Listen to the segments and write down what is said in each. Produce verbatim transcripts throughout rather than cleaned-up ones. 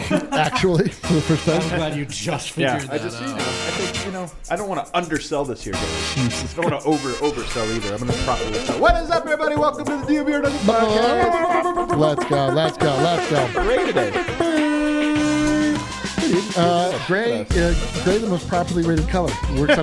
actually, for the first time. I'm glad you just figured Yeah, that I just, you know, out. I think, you know, I don't want to undersell this here, guys. I don't want to over oversell either. I'm going to properly sell. What is up, everybody? Welcome to the D B R Nuggets podcast. Let's go, let's go, let's go. Ray today. Uh, gray, uh, gray, the most properly rated color. Works on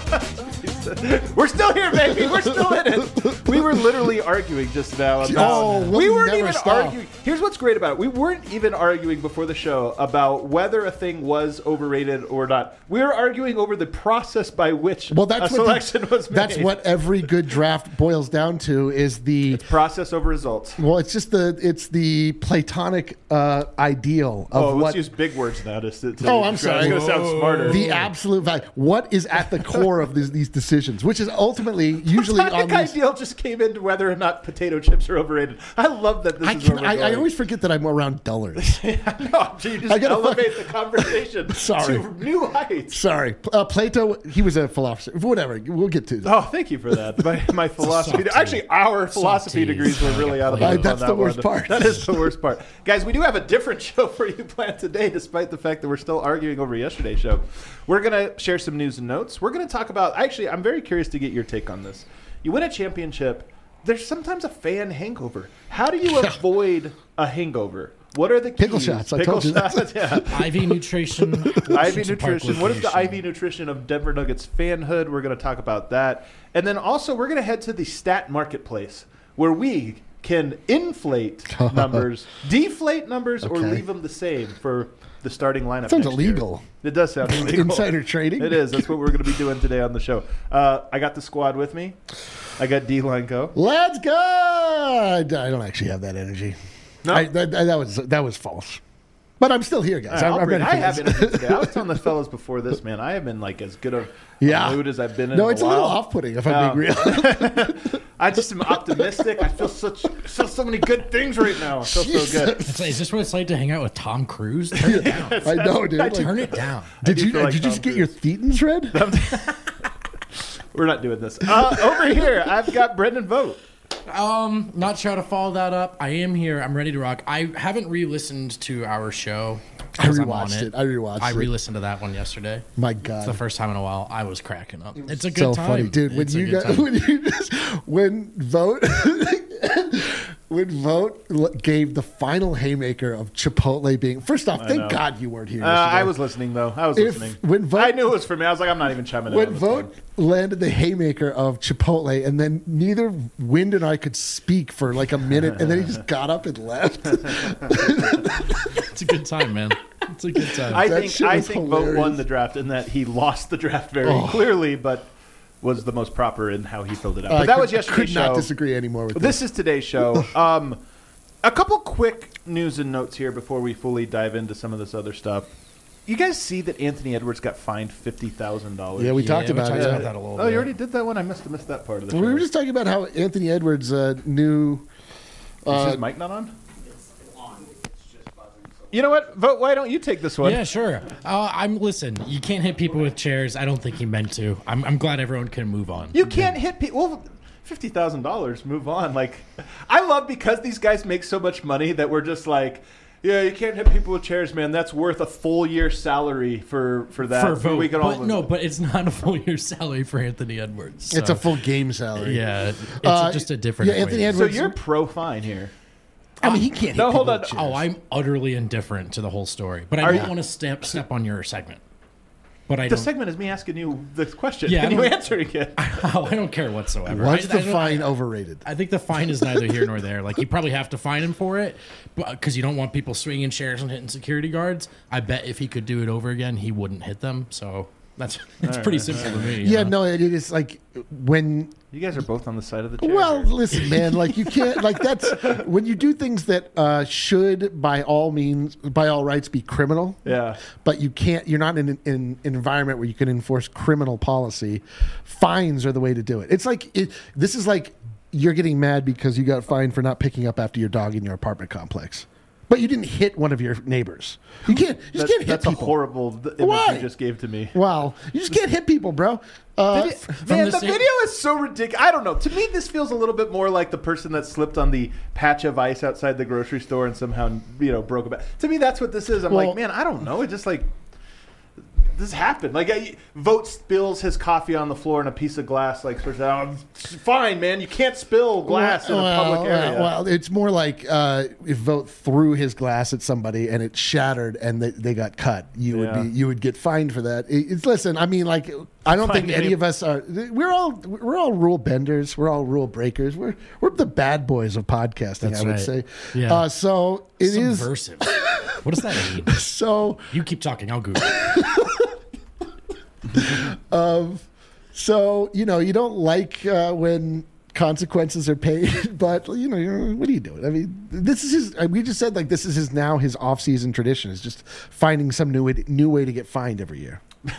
everybody. We're still here, baby. We're still in it. We were literally arguing just now about. Oh, we'll we weren't never even stop. arguing. Here's what's great about it. We weren't even arguing before the show about whether a thing was overrated or not. We were arguing over the process by which Well, that's a what selection the, was made. That's what every good draft boils down to is the Process over results. well, it's just the it's the Platonic uh, ideal of Oh, let's what use big words now. To, to, Oh, I'm It's sorry. going to sound smarter. the absolute value. What is at the core of these, these decisions, which is ultimately usually on Platonic these. ideal just came into whether or not potato chips are overrated. I love that this I, is can, where we're I, I going. always forget that I'm around dullers. No, so you just I gotta elevate fuck- the conversation Sorry. to new heights. Sorry, uh, Plato. He was a philosopher. Whatever. We'll get to that. Oh, thank you for that. My, my philosophy, soft actually, our Soft philosophy tease. degrees were really out of Uh, bounds. that's on the that worst one. part. That is the worst part, guys. We do have a different show for you planned today, despite the fact that we're still arguing over yesterday's show. We're gonna share some news and notes. We're gonna talk about. Actually, I'm very curious to get your take on this. You win a championship. There's sometimes a fan hangover. How do you avoid a hangover? What are the keys? Pickle shots, I Pickle told you that. shots, yeah. I V nutrition. I V Central Park nutrition. What is the location. I V nutrition of Denver Nuggets fanhood? We're going to talk about that. And then also we're going to head to the stat marketplace where we can inflate numbers, deflate numbers, or Okay. leave them the same for the starting lineup. Sounds next year. illegal. It does sound illegal. Insider trading? It is. That's what we're going to be doing today on the show. Uh, I got the squad with me. I got D-Line Go. Let's go. I I don't actually have that energy. No? I, that, that was that was false. But I'm still here, guys. All right, I'm, I'll I'm bring- ready I for have this. energy today. I was telling the fellas before this, man. I have been like as good a Yeah. mood as I've been in. No, in it's a a little while. off-putting if No. I'm being real. I just am optimistic. I feel such feel so many good things right now. I feel so good. It's like, is this what it's like to hang out with Tom Cruise? Turn it down. I know, dude. Like, Turn it down. did do you feel like did you Tom just get your thetans read? We're not doing this. Uh, over here, I've got Brendan Vogt. Um, not sure how to follow that up. I am here. I'm ready to rock. I haven't re-listened to our show. I 'cause I'm on rewatched it. I rewatched I it. re-listened to that one yesterday. My It's the God, first time in a while I was cracking up. It's a good so time, funny, dude. When It's a you good got time. when you just when vote when vote l- gave the final haymaker of Chipotle being first off, thank know. God you weren't here. Uh, yesterday. I was listening though. I was If- listening. when Vogt- I knew it was for me. I was like, I'm not even chiming in. when on this vote one. landed the haymaker of Chipotle, and then neither Wind and I could speak for like a minute, and then he just got up and left. It's a good time, man. It's a good time. I That think shit I was think Vogt won hilarious. the draft in that he lost the draft very Oh. clearly, but was the most proper in how he filled it out. I But that could- was yesterday's Could not show. disagree anymore with This is today's show. Um, a couple quick news and notes here before we fully dive into some of this other stuff. You guys see that Anthony Edwards got fined fifty thousand dollars? Yeah, we Yeah, talked we about talked it. about that a little Oh, you bit. already did that one. I must have missed that part of the show. We were just talking about how Anthony Edwards' uh, new. Is Uh, his mic not on? You know what? Vote. Why don't you take this one? Yeah, sure. Uh, I'm listen. You can't hit people with chairs. I don't think he meant to. I'm, I'm glad everyone can move on. You can't hit people. Well, fifty thousand dollars. Move on. Like, I love because these guys make so much money that we're just like, yeah, you can't hit people with chairs, man. That's worth a full year salary for for that. for vote. we can But all no, but it's not a full year salary for Anthony Edwards. It's so- a full game salary. Yeah, it's Uh, just a different. yeah, Anthony equation. So Edwards- you're pro fine here. I mean, he can't. No, hit hold people on. with chairs. Oh, I'm utterly indifferent to the whole story, but I Are don't you- want to step step on your segment. But I The don't. segment is me asking you the question Yeah, I and you don't- answering it. Oh, I don't care whatsoever. What's I, the I don't- fine overrated? I think the fine is neither here nor there. Like you probably have to fine him for it, because you don't want people swinging chairs and hitting security guards. I bet if he could do it over again, he wouldn't hit them. So that's it's pretty simple to me. you Yeah, know? no, it is like when. You guys are both on the side of the chair. Well, here. listen, man. Like you can't. Like that's when you do things that uh, should, by all means, by all rights, be criminal. yeah. But you can't. You're not in an, in an environment where you can enforce criminal policy. Fines are the way to do it. It's like it, this is like you're getting mad because you got fined for not picking up after your dog in your apartment complex. but you didn't hit one of your neighbors. You can't. You just That's, can't hit that's a people. horrible th- image Why? you just gave to me. Wow, you just can't hit people, bro. Uh, Did it- man, the the same- video is so ridiculous. I don't know. To me, this feels a little bit more like the person that slipped on the patch of ice outside the grocery store and somehow, you know, broke a back. To me, that's what this is. I'm Well- like, man, I don't know. It just like this happened. Like, I, Vogt spills his coffee on the floor in a piece of glass. Like, sort of, oh, fine, man, you can't spill glass in a well, public area. Well, well, it's more like uh, if Vogt threw his glass at somebody and it shattered and they, they got cut, you Yeah. would be you would get fined for that. It, it's listen, I mean, like I don't Fine, think any maybe. of us are. We're all we're all rule benders. We're all rule breakers. We're we're the bad boys of podcasting. That's I would right. say. Yeah. Uh, so it is. Subversive. What does that mean? So You keep talking. I'll Google it. so you know you don't like uh, when consequences are paid, but you know you're, what are you doing? I mean, this is his. uh, We just said like this is his now his off season tradition is just finding some new way, new way to get fined every year.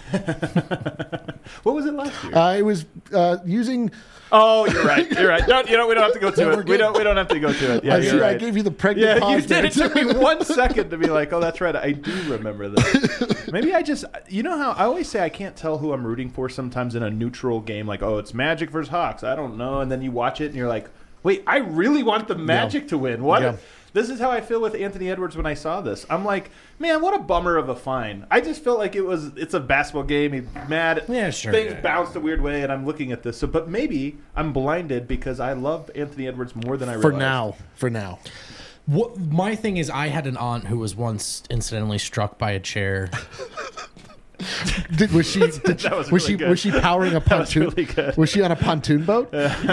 What was it last year? Uh, it was uh, using. oh, you're right. You're right. No, you know, we don't have to go to Yeah, we're it. We good. don't. We don't have to go to it. Yeah, I, you're see, I right. gave you the pregnant. Yeah, pause you there. did. It took me one second to be like, oh, that's right. I do remember this. Maybe I just, you know how I always say I can't tell who I'm rooting for sometimes in a neutral game. Like, oh, it's Magic versus Hawks. I don't know. And then you watch it and you're like, wait, I really want the Magic to win. What? Yeah. This is how I feel with Anthony Edwards when I saw this. I'm like, man, what a bummer of a fine. I just felt like it was, it's a basketball game. He's mad. Yeah, sure, Things yeah. bounced a weird way, and I'm looking at this. So, but maybe I'm blinded because I love Anthony Edwards more than I For realized. now, for now. What, my thing is, I had an aunt who was once incidentally struck by a chair. Did, was she? Did, That was was really she? good. Was she powering a was pontoon? really good. Was she on a pontoon boat?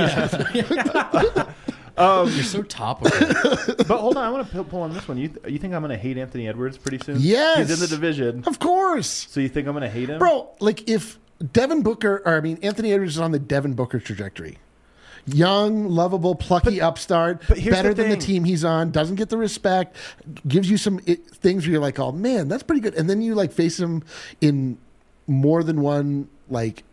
You're so topical. But hold on, I want to pull on this one. You you think I'm going to hate Anthony Edwards pretty soon? Yes. He's in the division. Of course. So you think I'm going to hate him? Bro, like if Devin Booker, or I mean, Anthony Edwards is on the Devin Booker trajectory. Young, lovable, plucky upstart, but here's better the than the thing. team he's on, doesn't get the respect, gives you some it, things where you're like, oh man, that's pretty good. And then you like face him in more than one like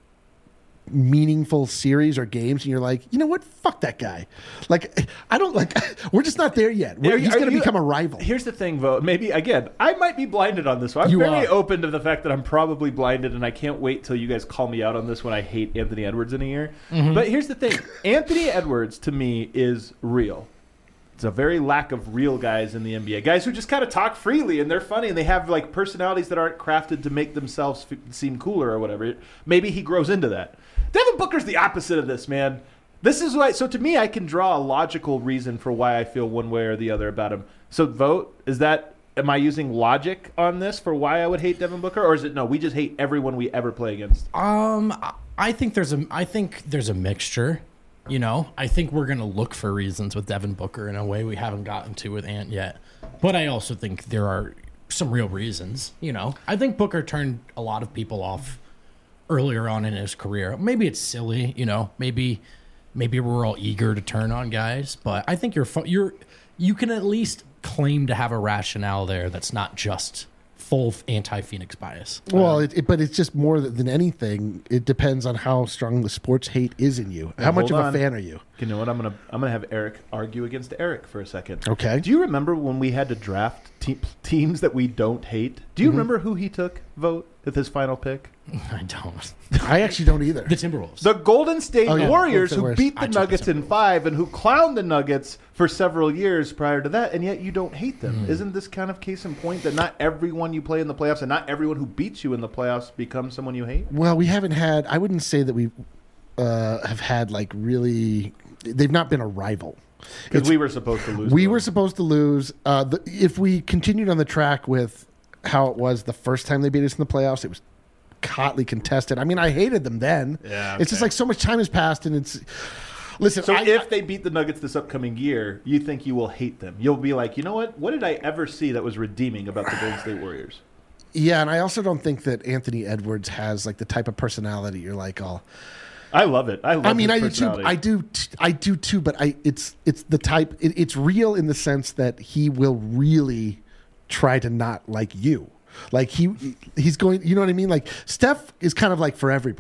meaningful series or games, and you're like, you know what? Fuck that guy. Like, I don't like, we're just not there yet. We're, Are you- he's are going to you- become a rival. Here's the thing, Vogt. Maybe, again, I might be blinded on this one. I'm You very are. open to the fact that I'm probably blinded, and I can't wait till you guys call me out on this when I hate Anthony Edwards in a year. Mm-hmm. But here's the thing. Anthony Edwards, to me, is real. It's a very lack of real guys in the N B A. Guys who just kind of talk freely, and they're funny, and they have like personalities that aren't crafted to make themselves f- seem cooler or whatever. Maybe he grows into that. Devin Booker's the opposite of this, man. This is why. So to me, I can draw a logical reason for why I feel one way or the other about him. So Vogt, is that? Am I using logic on this for why I would hate Devin Booker, or is it no? We just hate everyone we ever play against. Um, I- I think there's a, I think there's a mixture. You know, I think we're gonna look for reasons with Devin Booker in a way we haven't gotten to with Ant yet. But I also think there are some real reasons. You know, I think Booker turned a lot of people off earlier on in his career. Maybe it's silly. You know, maybe maybe we're all eager to turn on guys, but I think you're fu- you're you can at least claim to have a rationale there that's not just full anti-Phoenix bias. Well, it, it, but it's just more than anything. It depends on how strong the sports hate is in you. How much of hold a on. fan are you? You know what? I'm gonna I'm gonna have Eric argue against Eric for a second. Okay. Do you remember when we had to draft te- teams that we don't hate? Do you remember who he took? Vote with his final pick. I don't. I actually don't either. The Timberwolves. The Golden State Oh, yeah. Warriors, Golden State who Warriors. beat I the took the Nuggets in Timberwolves. five and who clowned the Nuggets for several years prior to that, and yet you don't hate them. Isn't this kind of case in point that not everyone you play in the playoffs and not everyone who beats you in the playoffs becomes someone you hate? Well, we haven't had. I wouldn't say that we uh, have had like really. They've not been a rival. Because It's- we were supposed to lose. We to were them. supposed to lose. Uh, the, if we continued on the track with how it was the first time they beat us in the playoffs, it was hotly contested. I mean, I hated them then. Yeah, It's just okay. like so much time has passed, and it's. Listen, So I, if they beat the Nuggets this upcoming year, you think you will hate them? You'll be like, you know what? What did I ever see that was redeeming about the Golden State Warriors? yeah, and I also don't think that Anthony Edwards has like the type of personality you're like all. I love it. I love. I mean, his I do too. personality. I do. T- I do too. But I, it's it's the type. It, it's real in the sense that he will really try to not like you. Like he he's going. You know what I mean? Like Steph is kind of like for everybody.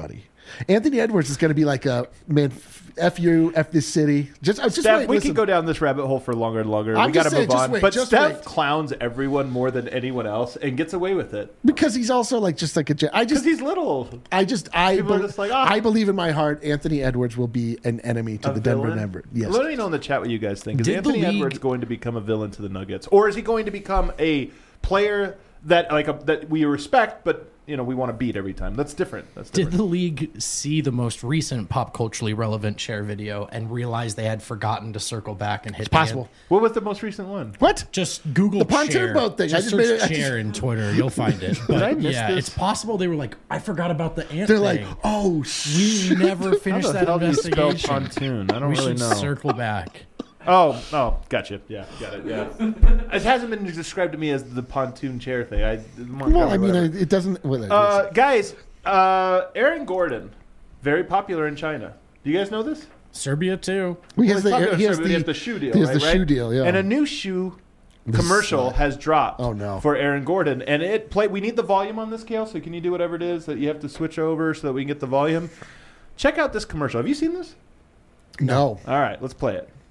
Anthony Edwards is going to be like a man. F you, F this city. Just, just Steph, wait, we listen. could go down this rabbit hole for longer and longer. I'm we got to just saying, move just on. wait, but just Steph wait. clowns everyone more than anyone else and gets away with it because he's also like just like a. I because just he's little. I just I People are be- just like, ah. I believe in my heart Anthony Edwards will be an enemy to A the Denver villain? Nuggets. Yes. Let me know in the chat what you guys think. Is Did the Anthony league- Edwards going to become a villain to the Nuggets, or is he going to become a player that like a, that we respect, but you know we want to beat every time? That's different. That's Did different. the league see the most recent pop culturally relevant share video and realize they had forgotten to circle back and hit It's possible. What was the most recent one? What? Just Google The pontoon chair. boat thing. I Just just search made it- I chair just- in Twitter. You'll find it. But I miss yeah, this? it's possible they were like, I forgot about the ant They're thing. like, oh we shit. never How finished the that hell do you spell investigation. pontoon? I don't We really should know. circle back. Oh, oh, gotcha. Yeah, got it. Yeah, it hasn't been described to me as the pontoon chair thing. I Well, I mean, whatever. it doesn't. Well, it- uh, guys, uh, Aaron Gordon, very popular in China. Do you guys know this? Serbia too. he Well, has he's popular the in he has Serbia, but the, he has the shoe deal. he has right, the right? shoe deal, yeah. And a new shoe This commercial is, uh, has dropped. Oh, no. For Aaron Gordon, and it play. We need the volume on this, Kale. So can you do whatever it is that you have to switch over so that we can get the volume? Check out this commercial. Have you seen this? no. All right, let's play it.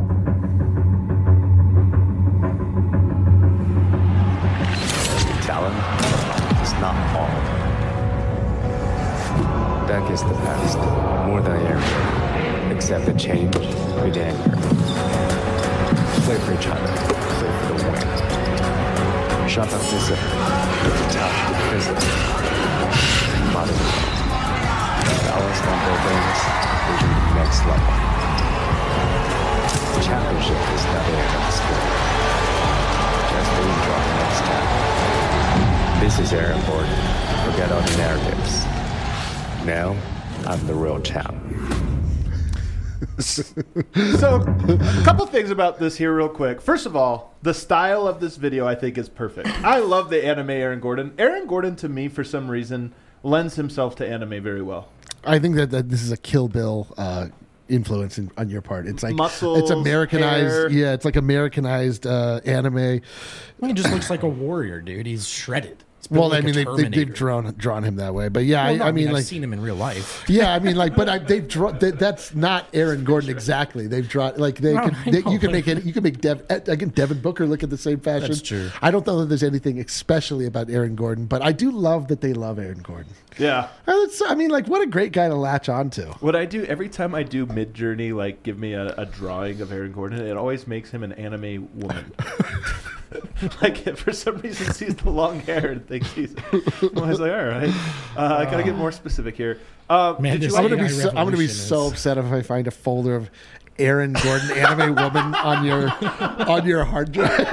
Talent is not all. That is the past, more than ever. Accept the change with anger. Play for each other, play for the win. Shut up visit, touch the visit. Body. Balance number things, vision next level. Championship is not the end of the story. Just the intro of the next step. This is Aaron Gordon. Forget all the narratives. Now, I'm the real champ. So, a couple things about this here, real quick. First of all, the style of this video I think is perfect. I love the anime Aaron Gordon. Aaron Gordon, to me, for some reason, lends himself to anime very well. I think that, that this is a Kill Bill uh, influence in, on your part. It's like Muscles, it's Americanized. hair. Yeah, it's like Americanized uh, anime. He just looks like a warrior, dude. He's shredded. He's built Well, like I mean, a they, they, they've Terminator. drawn drawn him that way, but yeah, Well, no, I, I mean, I've like, seen him in real life. yeah, I mean, like, but I, they've drawn. That, that's not Aaron Gordon exactly. They've drawn like they No, could. I They, know, you could but- make it. You could make Dev, again Devin Booker look at the same fashion. That's true. I don't know that there's anything especially about Aaron Gordon, but I do love that they love Aaron Gordon. Yeah. Uh, it's- I mean, like, what a great guy to latch onto. What I do every time I do Mid Journey, like give me a, a drawing of Aaron Gordon, it always makes him an anime woman. Like if for some reason sees the long hair and thinks he's. I'm always like, all right, uh, I gotta get more specific here. Uh, Man, did you this like I'm gonna A I be so, I'm gonna be revolution so is- upset if I find a folder of Aaron Gordon anime woman on your on your hard drive.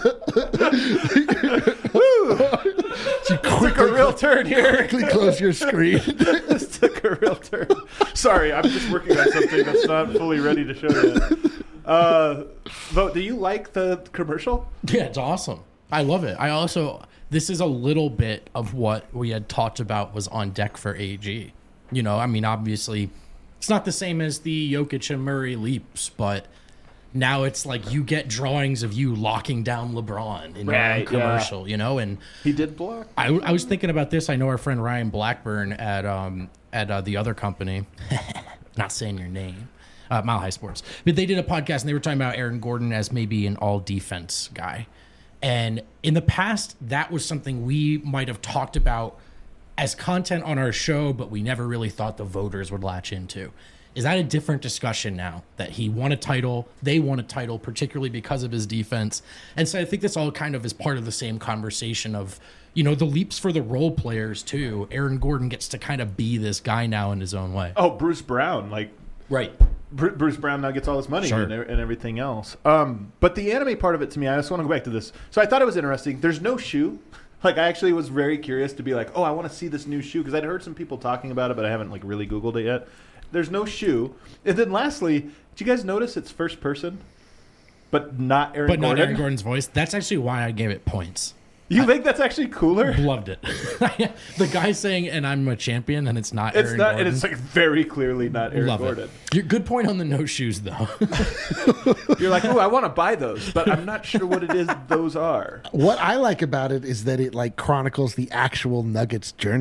You took a quickly, real turn here. quickly close your screen. This took a real turn. Sorry, I'm just working on something that's not fully ready to show yet. Uh, Vote, do you like the commercial? Yeah, it's awesome. I love it. I also, this is a little bit of what we had talked about was on deck for A G. You know, I mean, obviously, it's not the same as the Jokic and Murray leaps, but now it's like you get drawings of you locking down LeBron in your own Right, yeah. commercial, you know? And He did block. I, I was thinking about this. I know our friend Ryan Blackburn at um at uh, the other company, not saying your name, uh, Mile High Sports, but they did a podcast and they were talking about Aaron Gordon as maybe an all defense guy. And in the past, that was something we might have talked about as content on our show, but we never really thought the voters would latch into. Is that a different discussion now that he won a title? They won a title, particularly because of his defense. And so I think this all kind of is part of the same conversation of, you know, the leaps for the role players too. Aaron Gordon gets to kind of be this guy now in his own way. Oh, Bruce Brown, like Right. Bru- Bruce Brown now gets all this money Sure. and, e- and everything else. Um, but the anime part of it to me, I just want to go back to this. So I thought it was interesting. There's no shoe. Like I actually was very curious to be like, oh, I want to see this new shoe because I'd heard some people talking about it, but I haven't like really Googled it yet. There's no shoe. And then lastly, did you guys notice it's first person, but not Aaron But Gordon? not Aaron Gordon's voice. That's actually why I gave it points. You think that's actually cooler? Loved it. The guy saying, and I'm a champion, and it's not It's Aaron not, Gordon. and it's like very clearly not Aaron Love Gordon. it. You're, good point on the no shoes, though. You're like, oh, I want to buy those, but I'm not sure what it is those are. What I like about it is that it like chronicles the actual Nuggets journey.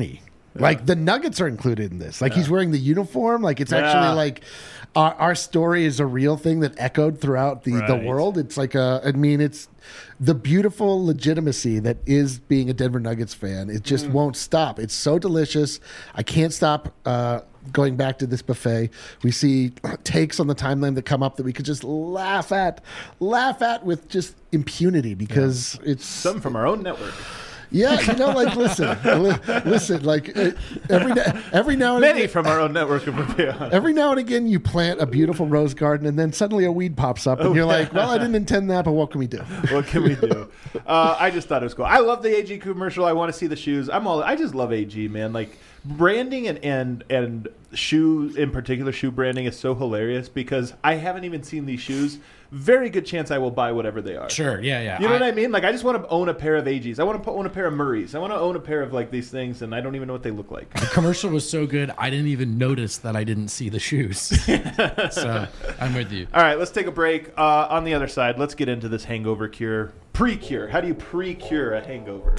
Like the Nuggets are included in this. Like he's wearing the uniform. Like it's Yeah. actually like our, our story is a real thing that echoed throughout the, the Right. world. It's like a, I mean, it's the beautiful legitimacy that is being a Denver Nuggets fan. It just won't stop. It's so delicious. I can't stop uh, going back to this buffet. We see takes on the timeline that come up that we could just laugh at, laugh at with just impunity because it's Some from our own network. yeah, you know, like listen, li- listen, like uh, every na- every now and Many again, from our own network of Patreon. every now and again, you plant a beautiful rose garden, and then suddenly a weed pops up, and you're like, "Well, I didn't intend that, but what can we do?" What can we do? Uh, I just thought it was cool. I love the A G commercial. I want to see the shoes. I'm all. I just love A G, man. Like branding and and and shoe in particular, shoe branding is so hilarious because I haven't even seen these shoes. Very good chance I will buy whatever they are. Sure, yeah, yeah. You know I, what I mean? Like, I just want to own a pair of A Gs. I want to own a pair of Murrays. I want to own a pair of, like, these things, and I don't even know what they look like. The commercial was so good, I didn't even notice that I didn't see the shoes. So I'm with you. All right, let's take a break. Uh, on the other side, let's get into this hangover cure. Pre-cure. How do you pre-cure a hangover?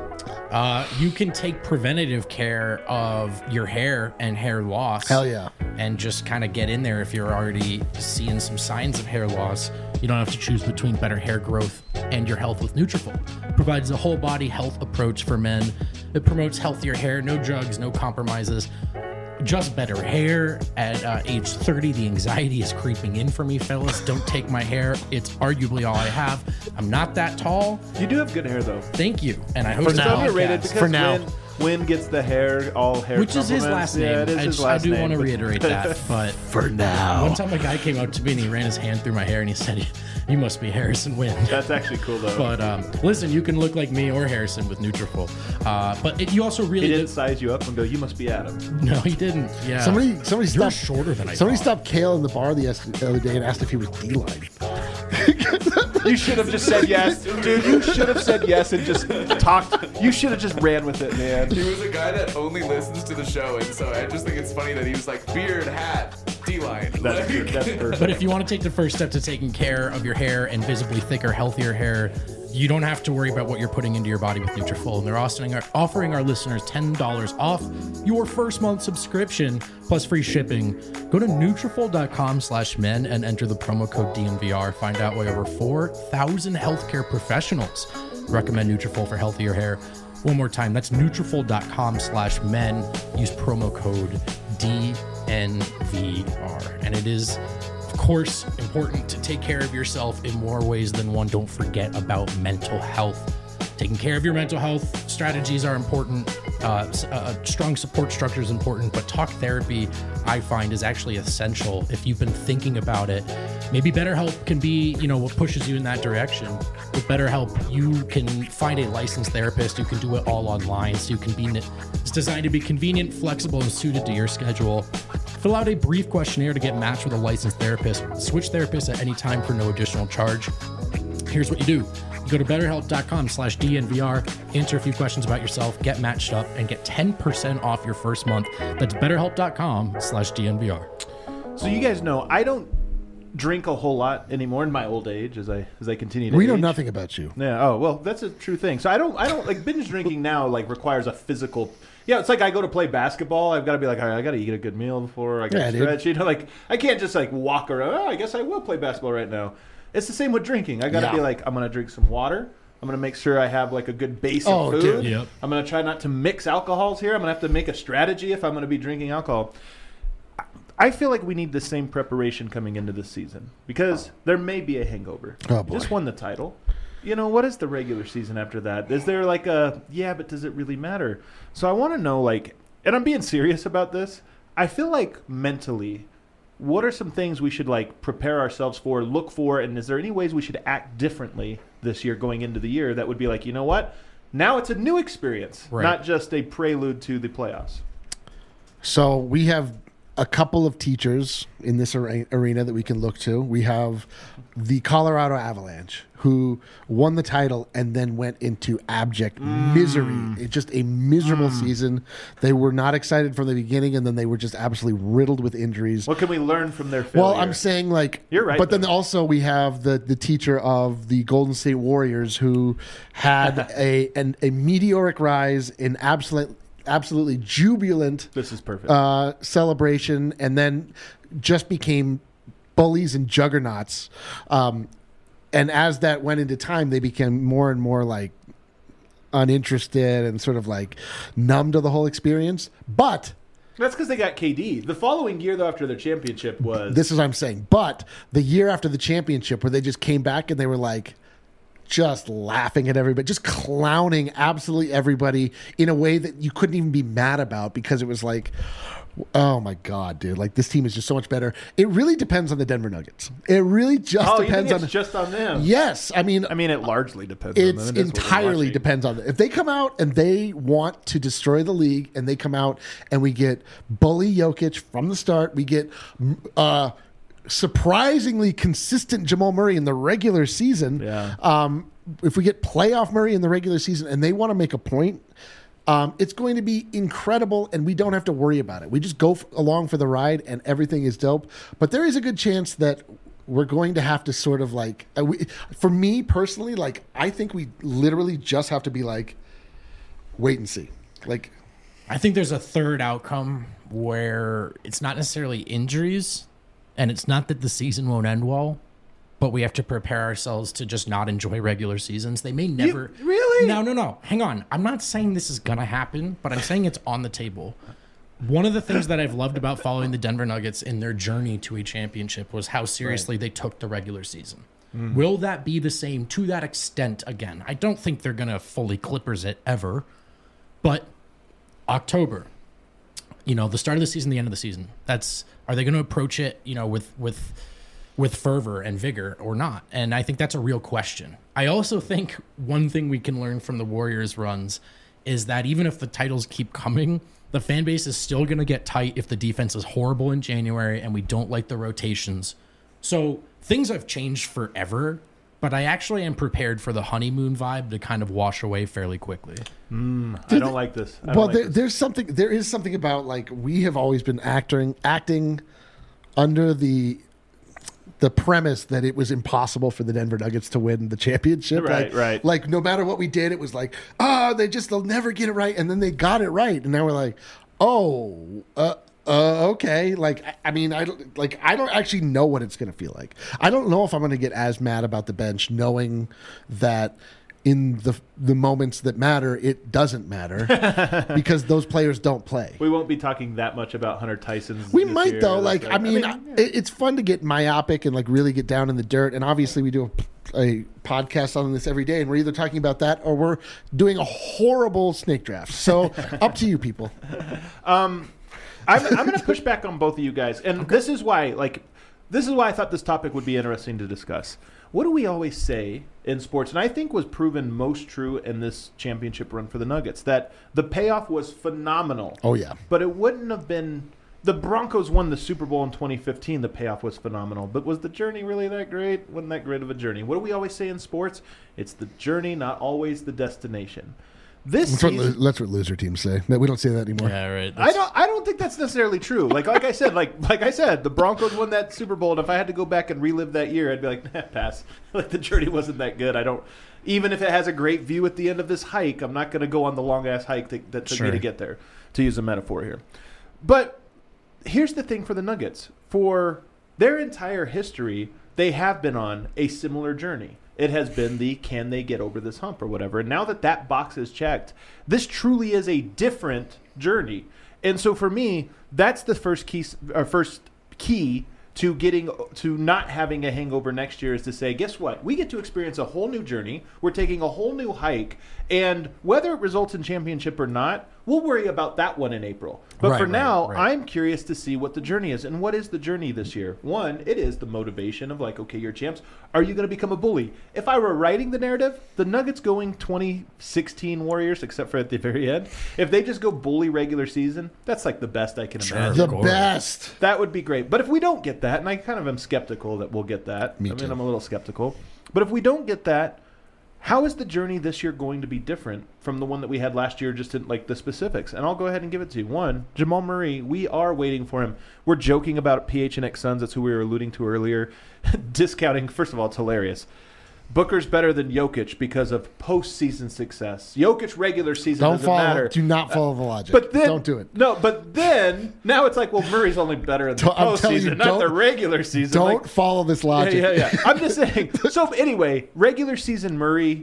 Uh, you can take preventative care of your hair and hair loss. Hell yeah. And just kind of get in there if you're already seeing some signs of hair loss. You don't have to choose between better hair growth and your health with Nutrafol. It provides a whole body health approach for men. It promotes healthier hair, no drugs, no compromises. Just better hair. At uh, age thirty, the anxiety is creeping in for me, fellas. Don't take my hair. It's arguably all I have. I'm not that tall. You do have good hair, though. Thank you. And I host It's a now. underrated podcast. because For now. Win, Win gets the hair, all hair Which is his compliments. last name. Yeah, it is I, his just, last I do name, want to but- reiterate that. But For now, one time a guy came up to me and he ran his hand through my hair and he said, "You must be Harrison Wind." That's actually cool, though. But um, listen, you can look like me or Harrison with Nutrafol. Uh, but it, you also he really didn't did. size you up and go, you must be Adam. No, he didn't. Yeah. somebody somebody You're stopped shorter than I somebody thought. stopped Kale in the bar the, the other day and asked if he was D-line. You should have just said yes. Dude, you should have said yes and just talked. You should have just ran with it, man. He was a guy that only listens to the show, and so I just think it's funny that he was like beard, hat, D-line. That's, Like- that's perfect. But if you want to take the first step to taking care of your hair and visibly thicker, healthier hair, you don't have to worry about what you're putting into your body with Nutrafol. And they're offering our, offering our listeners ten dollars off your first month subscription plus free shipping. Go to Nutrafol.com slash men and enter the promo code D N V R. Find out why over four thousand healthcare professionals recommend Nutrafol for healthier hair. One more time, that's Nutrafol.com slash men. Use promo code D N V R. And it is, of course, important to take care of yourself in more ways than one. Don't forget about mental health. Taking care of your mental health strategies are important. Uh, s- a a strong support structure is important, but talk therapy, I find, is actually essential if you've been thinking about it. Maybe BetterHelp can be, you know, what pushes you in that direction. With BetterHelp, you can find a licensed therapist. You can do it all online, so you can be. It's designed to be convenient, flexible, and suited to your schedule. Fill out a brief questionnaire to get matched with a licensed therapist. Switch therapists at any time for no additional charge. Here's what you do. You go to betterhelp.com slash DNVR, answer a few questions about yourself, get matched up, and get ten percent off your first month. That's betterhelp.com slash DNVR. So you guys know, I don't drink a whole lot anymore in my old age as I as I continue to We know age. nothing about you. Yeah. Oh well, that's a true thing. So I don't. I don't like binge drinking now. Like requires a physical. Yeah, it's like I go to play basketball. I've got to be like, all right, I got to eat a good meal before I got Yeah, to dude. stretch. You know, like I can't just like walk around. Oh, I guess I will play basketball right now. It's the same with drinking. I got to Yeah. be like, I'm gonna drink some water. I'm gonna make sure I have like a good base Oh, of food. dude. Yep. I'm gonna try not to mix alcohols here. I'm gonna have to make a strategy if I'm gonna be drinking alcohol. I feel like we need the same preparation coming into this season because there may be a hangover. Oh, You boy. just won the title. You know, what is the regular season after that? Is there like a, yeah, but does it really matter? So I want to know, like, and I'm being serious about this. I feel like mentally, what are some things we should like prepare ourselves for, look for, and is there any ways we should act differently this year going into the year that would be like, you know what? Now it's a new experience, Right. not just a prelude to the playoffs. So we have a couple of teachers in this are- arena that we can look to. We have the Colorado Avalanche, who won the title and then went into abject misery. It's just a miserable season. They were not excited from the beginning, and then they were just absolutely riddled with injuries. What can we learn from their failure? Well, I'm saying like You're right, but then though. also we have the the teacher of the Golden State Warriors who had a an, a meteoric rise in absolute absolutely jubilant This is perfect. uh, celebration, and then just became bullies and juggernauts. Um, and as that went into time, they became more and more like uninterested and sort of like numb to the whole experience. But That's because they got K D. The following year, though, after their championship was... this is what I'm saying. But the year after the championship, where they just came back and they were like just laughing at everybody, just clowning absolutely everybody in a way that you couldn't even be mad about, because it was like, oh my God, dude, like this team is just so much better. It really depends on the Denver Nuggets. It really just oh, depends you think on it's just on them? Yes, I mean, I mean, it largely depends on it's them. It is what we're entirely watching. depends on them. If they come out and they want to destroy the league, and they come out and we get bully Jokic from the start, we get uh, surprisingly consistent Jamal Murray in the regular season. Yeah. Um, if we get playoff Murray in the regular season and they want to make a point, um, it's going to be incredible, and we don't have to worry about it. We just go f- along for the ride, and everything is dope. But there is a good chance that we're going to have to sort of like, uh, we, for me personally, like I think we literally just have to be like, wait and see. Like, I think there's a third outcome where it's not necessarily injuries, and it's not that the season won't end well, but we have to prepare ourselves to just not enjoy regular seasons. They may never... You- really? No, no, no. Hang on. I'm not saying this is going to happen, but I'm saying it's on the table. One of the things that I've loved about following the Denver Nuggets in their journey to a championship was how seriously they took the regular season. Mm. Will that be the same to that extent again? I don't think they're going to fully Clippers it ever, but October, you know, the start of the season, the end of the season, that's, are they going to approach it, you know, with, with, with fervor and vigor or not? And I think that's a real question. I also think one thing we can learn from the Warriors runs is that even if the titles keep coming, the fan base is still going to get tight if the defense is horrible in January and we don't like the rotations. So things have changed forever, but I actually am prepared for the honeymoon vibe to kind of wash away fairly quickly. Mm, I don't like this. I don't well, like there, this. there's something. There is something about like we have always been acting, acting under the the premise that it was impossible for the Denver Nuggets to win the championship. Right, like, right. Like no matter what we did, it was like, oh, they just they'll never get it right, and then they got it right, and now we're like, oh, uh, uh, okay. Like I, I mean, I don't like I don't actually know what it's going to feel like. I don't know if I'm going to get as mad about the bench, knowing that in the the moments that matter, it doesn't matter because those players don't play. We won't be talking that much about Hunter Tyson's. We this might year. though. Like, I mean, yeah. it, it's fun to get myopic and like really get down in the dirt. And obviously, we do a, a podcast on this every day, and we're either talking about that or we're doing a horrible snake draft. So, up to you, people. Um, I'm, I'm going to push back on both of you guys, and this is why. Like, this is why I thought this topic would be interesting to discuss. What do we always say in sports, and I think was proven most true in this championship run for the Nuggets, that the payoff was phenomenal. Oh yeah, but it wouldn't have been. The Broncos won the Super Bowl in twenty fifteen. The payoff was phenomenal. But was the journey really that great? Wasn't that great of a journey? What do we always say in sports? It's the journey, not always the destination. This that's what, season, that's what loser teams say. We don't say that anymore. Yeah, right. I don't. I don't think that's necessarily true. Like, like I said, like, like I said, the Broncos won that Super Bowl, and if I had to go back and relive that year, I'd be like, nah, pass. Like the journey wasn't that good. I don't. Even if it has a great view at the end of this hike, I'm not going to go on the long ass hike that, that took Sure. me to get there. To use a metaphor here, but here's the thing for the Nuggets: for their entire history, they have been on a similar journey. It has been the can they get over this hump or whatever. And now that that box is checked, this truly is a different journey. And so for me, that's the first key, or first key to getting to not having a hangover next year is to say, guess what? We get to experience a whole new journey. We're taking a whole new hike. And whether it results in championship or not, we'll worry about that one in April. But Right, for right, now, right. I'm curious to see what the journey is. And what is the journey this year? One, it is the motivation of like, okay, you're champs. Are you going to become a bully? If I were writing the narrative, the Nuggets going twenty sixteen Warriors, except for at the very end, if they just go bully regular season, that's like the best I can Sure. imagine. The Of course. best. That would be great. But if we don't get that, and I kind of am skeptical that we'll get that. Me I mean, too. I'm a little skeptical. But if we don't get that, how is the journey this year going to be different from the one that we had last year, just in like the specifics? And I'll go ahead and give it to you. One, Jamal Murray, we are waiting for him. We're joking about P H N X Suns. That's who we were alluding to earlier. Discounting, first of all, it's hilarious. Booker's better than Jokic because of postseason success. Jokic regular season Don't doesn't follow. matter. Do not follow the logic. But then, don't do it. No, but then now it's like, well, Murray's only better in the Don't- I'm telling you, postseason, not don't- the regular season. Don't Like, follow this yeah, logic. yeah, yeah. I'm just saying. So anyway, regular season Murray.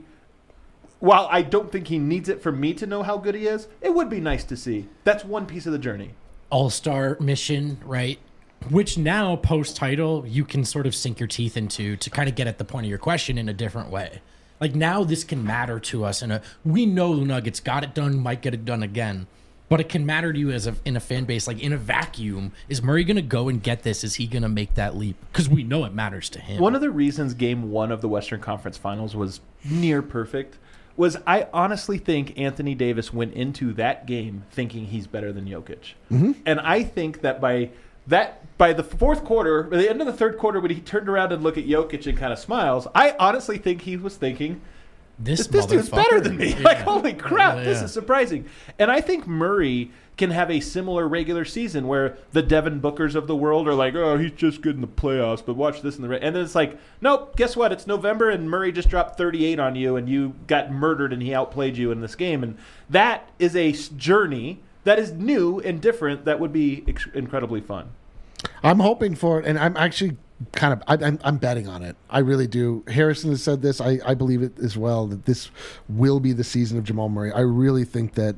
While I don't think he needs it for me to know how good he is, it would be nice to see. That's one piece of the journey. All-star mission, right? Which now, post-title, you can sort of sink your teeth into to kind of get at the point of your question in a different way. Like, now this can matter to us. And we know the Nuggets got it done, might get it done again. But it can matter to you as a, in a fan base, like in a vacuum. Is Murray going to go and get this? Is he going to make that leap? Because we know it matters to him. One of the reasons game one of the Western Conference Finals was near perfect was I honestly think Anthony Davis went into that game thinking he's better than Jokic. Mm-hmm. And I think that by that by the fourth quarter, by the end of the third quarter, when he turned around and looked at Jokic and kind of smiles, I honestly think he was thinking, this, this, this dude's motherfucker- better than me. Yeah. Like, holy crap, Yeah, this yeah. is surprising. And I think Murray can have a similar regular season where the Devin Bookers of the world are like, oh, he's just good in the playoffs, but watch this in the... Re-. And then it's like, nope, guess what? It's November and Murray just dropped thirty-eight on you and you got murdered and he outplayed you in this game. And that is a s- journey that is new and different that would be ex- incredibly fun. I'm hoping for it, and I'm actually kind of I, I'm, I'm betting on it. I really do. Harrison has said this. I, I believe it as well, that this will be the season of Jamal Murray. I really think that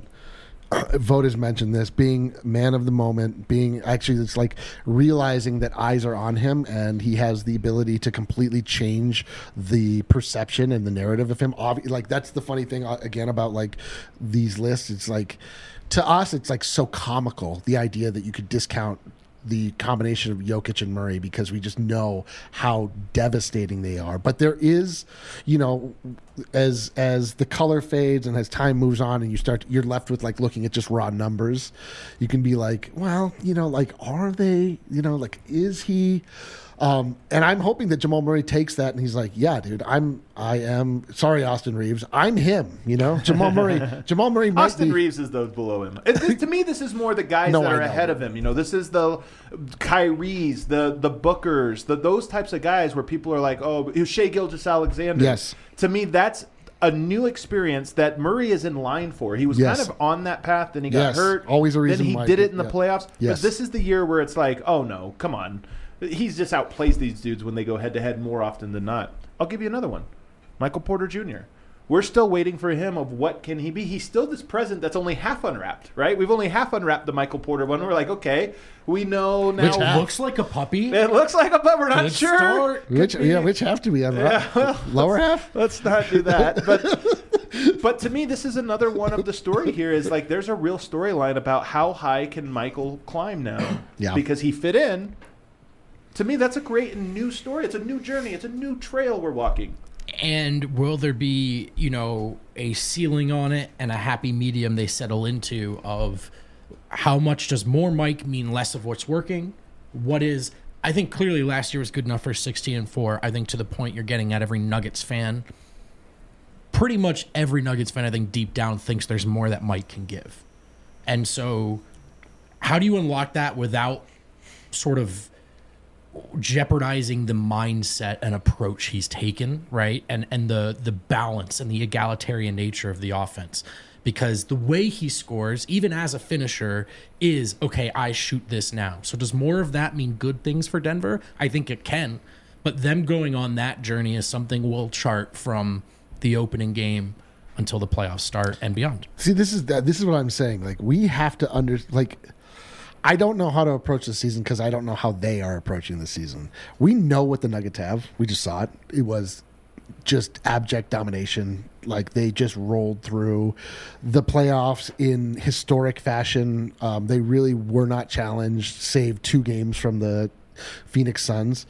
Vogt has mentioned this, being man of the moment, being actually it's like realizing that eyes are on him and he has the ability to completely change the perception and the narrative of him. Obvi- like that's the funny thing uh, again about like these lists. It's like to us, it's like so comical, the idea that you could discount the combination of Jokic and Murray because we just know how devastating they are. But there is, you know, as as the color fades and as time moves on and you start, you're left with like looking at just raw numbers. You can be like, well, you know, like are they, you know, like is he? Um, and I'm hoping that Jamal Murray takes that and he's like, yeah, dude, I'm, I am sorry, Austin Reeves, I'm him. You know, Jamal Murray. Jamal Murray. Might Austin be, Reeves is those below him. It, this, to me, this is more the guys No, that I are know. ahead of him. You know, this is the Kyries, the the Bookers, the those types of guys where people are like, oh, Shai Gilgeous-Alexander. Yes. To me, that's a new experience that Murray is in line for. He was Yes. kind of on that path, then he got Yes. hurt. Always a reason Then he why- did it in the yeah. playoffs. Yes. But this is the year where it's like, oh no, come on. He's just outplays these dudes when they go head to head more often than not. I'll give you another one. Michael Porter Junior We're still waiting for him of what can he be. He's still this present that's only half unwrapped, right? We've only half unwrapped the Michael Porter one. We're like, okay, we know now. Which looks like a puppy. It looks like a, but we're not Good sure. start. Could Which be. yeah, which have to be on Yeah, well, lower half. Let's not do that. But but to me, this is another one of the story here is like there's a real storyline about how high can Michael climb now. Yeah. Because he fit in. To me, that's a great and new story. It's a new journey. It's a new trail we're walking. And will there be, you know, a ceiling on it and a happy medium they settle into of how much does more Mike mean less of what's working? What is, I think clearly last year was good enough for sixteen and four. I think to the point you're getting at every Nuggets fan, pretty much every Nuggets fan, I think deep down thinks there's more that Mike can give. And so how do you unlock that without sort of jeopardizing the mindset and approach he's taken, right? And and the the balance and the egalitarian nature of the offense. Because the way he scores, even as a finisher, is, okay, I shoot this now. So does more of that mean good things for Denver? I think it can. But them going on that journey is something we'll chart from the opening game until the playoffs start and beyond. See, this is that. This is what I'm saying. Like we have to under like. I don't know how to approach the season because I don't know how they are approaching the season. We know what the Nuggets have. We just saw it. It was just abject domination. Like they just rolled through the playoffs in historic fashion. Um, they really were not challenged, save two games from the Phoenix Suns.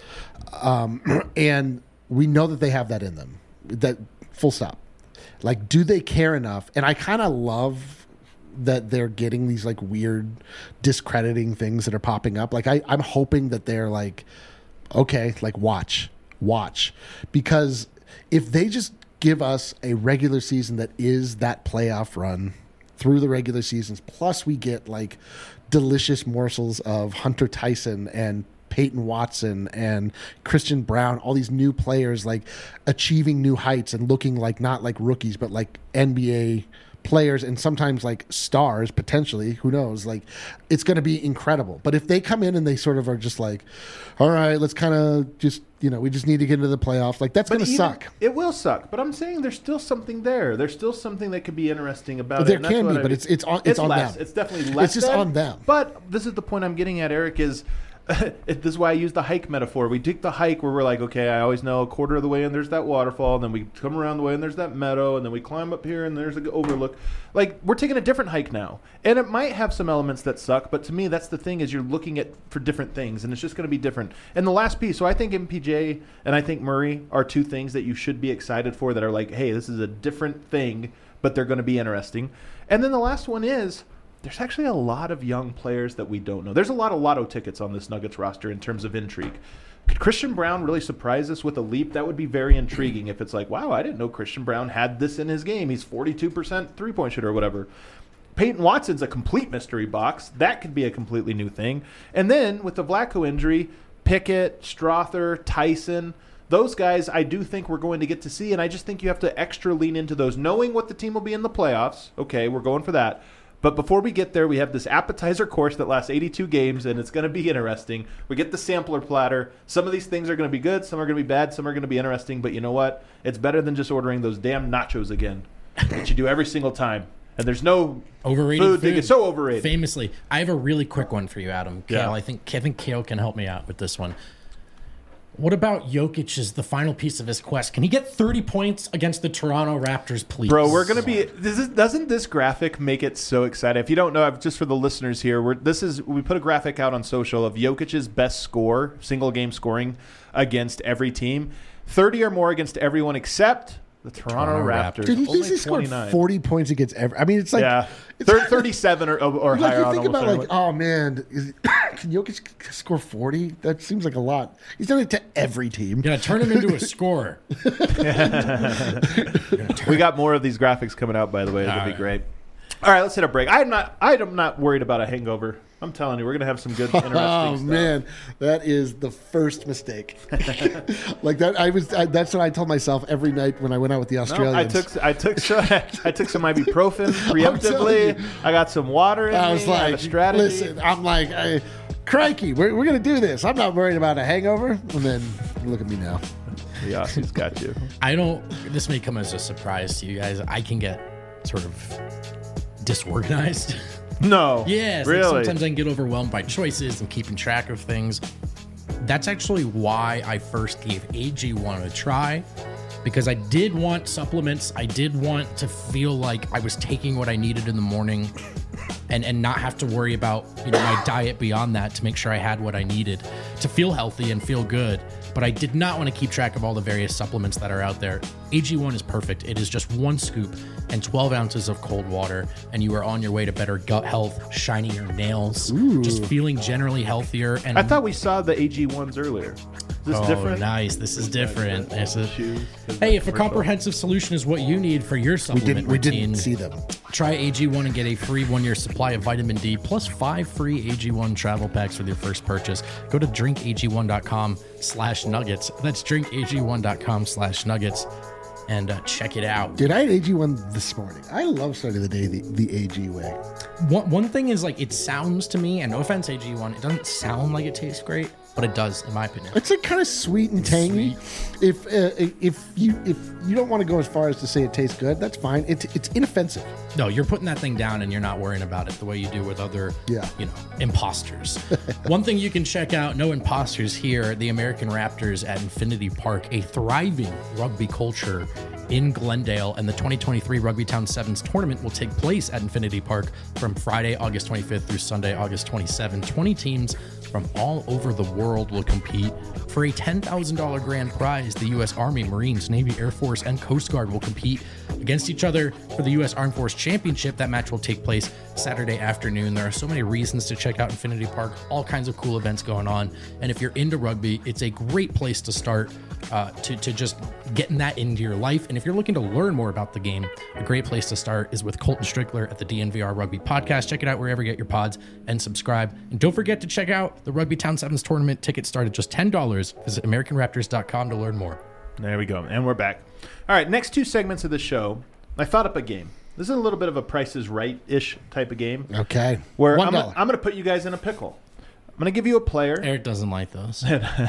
Um, and we know that they have that in them. That full stop. Like, do they care enough? And I kind of love that they're getting these like weird discrediting things that are popping up. Like I, I'm hoping that they're like, okay, like watch, watch. Because if they just give us a regular season that is that playoff run through the regular seasons, plus we get like delicious morsels of Hunter Tyson and Peyton Watson and Christian Brown, all these new players like achieving new heights and looking like not like rookies, but like N B A players and sometimes like stars potentially, who knows, like it's going to be incredible. But if they come in and they sort of are just like, all right, let's kind of just, you know, we just need to get into the playoffs, like that's going to suck. It will suck, but I'm saying there's still something there. There's still something that could be interesting about There it. There can be, I, but it's it's on it's, it's on less. them. It's definitely less. It's just than, on them. But this is the point I'm getting at, Eric, is this is why I use the hike metaphor. We take the hike where we're like, okay, I always know a quarter of the way and there's that waterfall, and then we come around the way and there's that meadow, and then we climb up here and there's an overlook. Like, we're taking a different hike now. And it might have some elements that suck, but to me, that's the thing, is you're looking at for different things, and it's just going to be different. And the last piece, so I think M P J and I think Murray are two things that you should be excited for, that are like, hey, this is a different thing, but they're going to be interesting. And then the last one is, there's actually a lot of young players that we don't know. There's a lot of lotto tickets on this Nuggets roster in terms of intrigue. Could Christian Brown really surprise us with a leap? That would be very intriguing if it's like, wow, I didn't know Christian Brown had this in his game. He's forty-two percent three-point shooter or whatever. Peyton Watson's a complete mystery box. That could be a completely new thing. And then with the Vlatko injury, Pickett, Strother, Tyson, those guys I do think we're going to get to see, and I just think you have to extra lean into those, knowing what the team will be in the playoffs. Okay, we're going for that. But before we get there, we have this appetizer course that lasts eighty-two games, and it's going to be interesting. We get the sampler platter. Some of these things are going to be good, some are going to be bad, some are going to be interesting. But you know what? It's better than just ordering those damn nachos again that you do every single time. And there's no overrated food. food. It's so overrated. Famously, I have a really quick one for you, Adam. Kale, Yeah. I think I think Kale can help me out with this one. What about Jokic as the final piece of his quest? Can he get thirty points against the Toronto Raptors, please? Bro, we're gonna be. This is, doesn't this graphic make it so exciting? If you don't know, just for the listeners here, we're, this is we put a graphic out on social of Jokic's best score, single game scoring against every team, thirty or more against everyone except the Toronto, Toronto Raptors. Raptors. Dude, he Only usually scored twenty-nine. forty points against every. I mean, it's like Yeah, it's, Thir- thirty-seven or, or like higher. you on think almost about like, everyone. oh man, is, can Jokic score forty? That seems like a lot. He's done it to every team. You're gonna turn him into a scorer. We got more of these graphics coming out, by the way. It'll All be right. great. All right, let's hit a break. I'm not. I'm not worried about a hangover. I'm telling you, we're gonna have some good, interesting Oh stuff. man, that is the first mistake. Like that, I was. I, that's what I told myself every night when I went out with the No, Australians. I took I took some I took some ibuprofen telling preemptively. you. I got some water in I me. was I have like, a strategy. listen, I'm like, I, crikey, we're, we're going to do this. I'm not worried about a hangover. And then look at me now. Yeah, he's got you. I don't. This may come as a surprise to you guys. I can get sort of disorganized. No, Yes, really. like sometimes I can get overwhelmed by choices and keeping track of things. That's actually why I first gave A G one a try, because I did want supplements. I did want to feel like I was taking what I needed in the morning, and and not have to worry about, you know, my diet beyond that, to make sure I had what I needed to feel healthy and feel good. But I did not want to keep track of all the various supplements that are out there. A G one is perfect. It is just one scoop and twelve ounces of cold water, and you are on your way to better gut health, shinier nails, just feeling generally healthier. And I thought we saw the A G ones earlier. Is this oh, different? nice. This is different. This is- Shoes, 'cause Hey, if a commercial. comprehensive solution is what you need for your We supplement didn't. We routine, didn't see them. try A G one and get a free one-year supply of vitamin D plus five free A G one travel packs with your first purchase. Go to drink A G one dot com slash nuggets. That's drink A G one dot com slash nuggets and uh, check it out. Dude, I had A G one this morning. I love starting the day the, the A G way. One, one thing is, like, it sounds to me, and no offense, A G one, it doesn't sound like it tastes great, but it does, in my opinion. It's like kind of sweet and tangy. If uh, if you if you don't want to go as far as to say it tastes good, that's fine. It's it's inoffensive. No, you're putting that thing down and you're not worrying about it the way you do with other, Yeah. you know, imposters. One thing you can check out, no imposters here, the American Raptors at Infinity Park, a thriving rugby culture in Glendale, and the twenty twenty-three Rugby Town Sevens tournament will take place at Infinity Park from Friday, August twenty-fifth through Sunday, August twenty-seventh. twenty teams from all over the world will compete for a ten thousand dollars grand prize. The U S Army, Marines, Navy, Air Force, and Coast Guard will compete against each other for the U S Armed Force Championship. That match will take place Saturday afternoon. There are so many reasons to check out Infinity Park, all kinds of cool events going on. And if you're into rugby, it's a great place to start. uh, to, to just getting that into your life. And if you're looking to learn more about the game, a great place to start is with Colton Strickler at the D N V R Rugby Podcast. Check it out wherever you get your pods and subscribe. And don't forget to check out the Rugby Town Sevens tournament. Tickets start at just ten dollars. Visit American Raptors dot com to learn more. There we go. And we're back. All right, next two segments of the show, I thought up a game. This is a little bit of a Price is Right-ish type of game. Okay. Where One I'm, dollar. I'm going to put you guys in a pickle. I'm going to give you a player. Eric doesn't like those.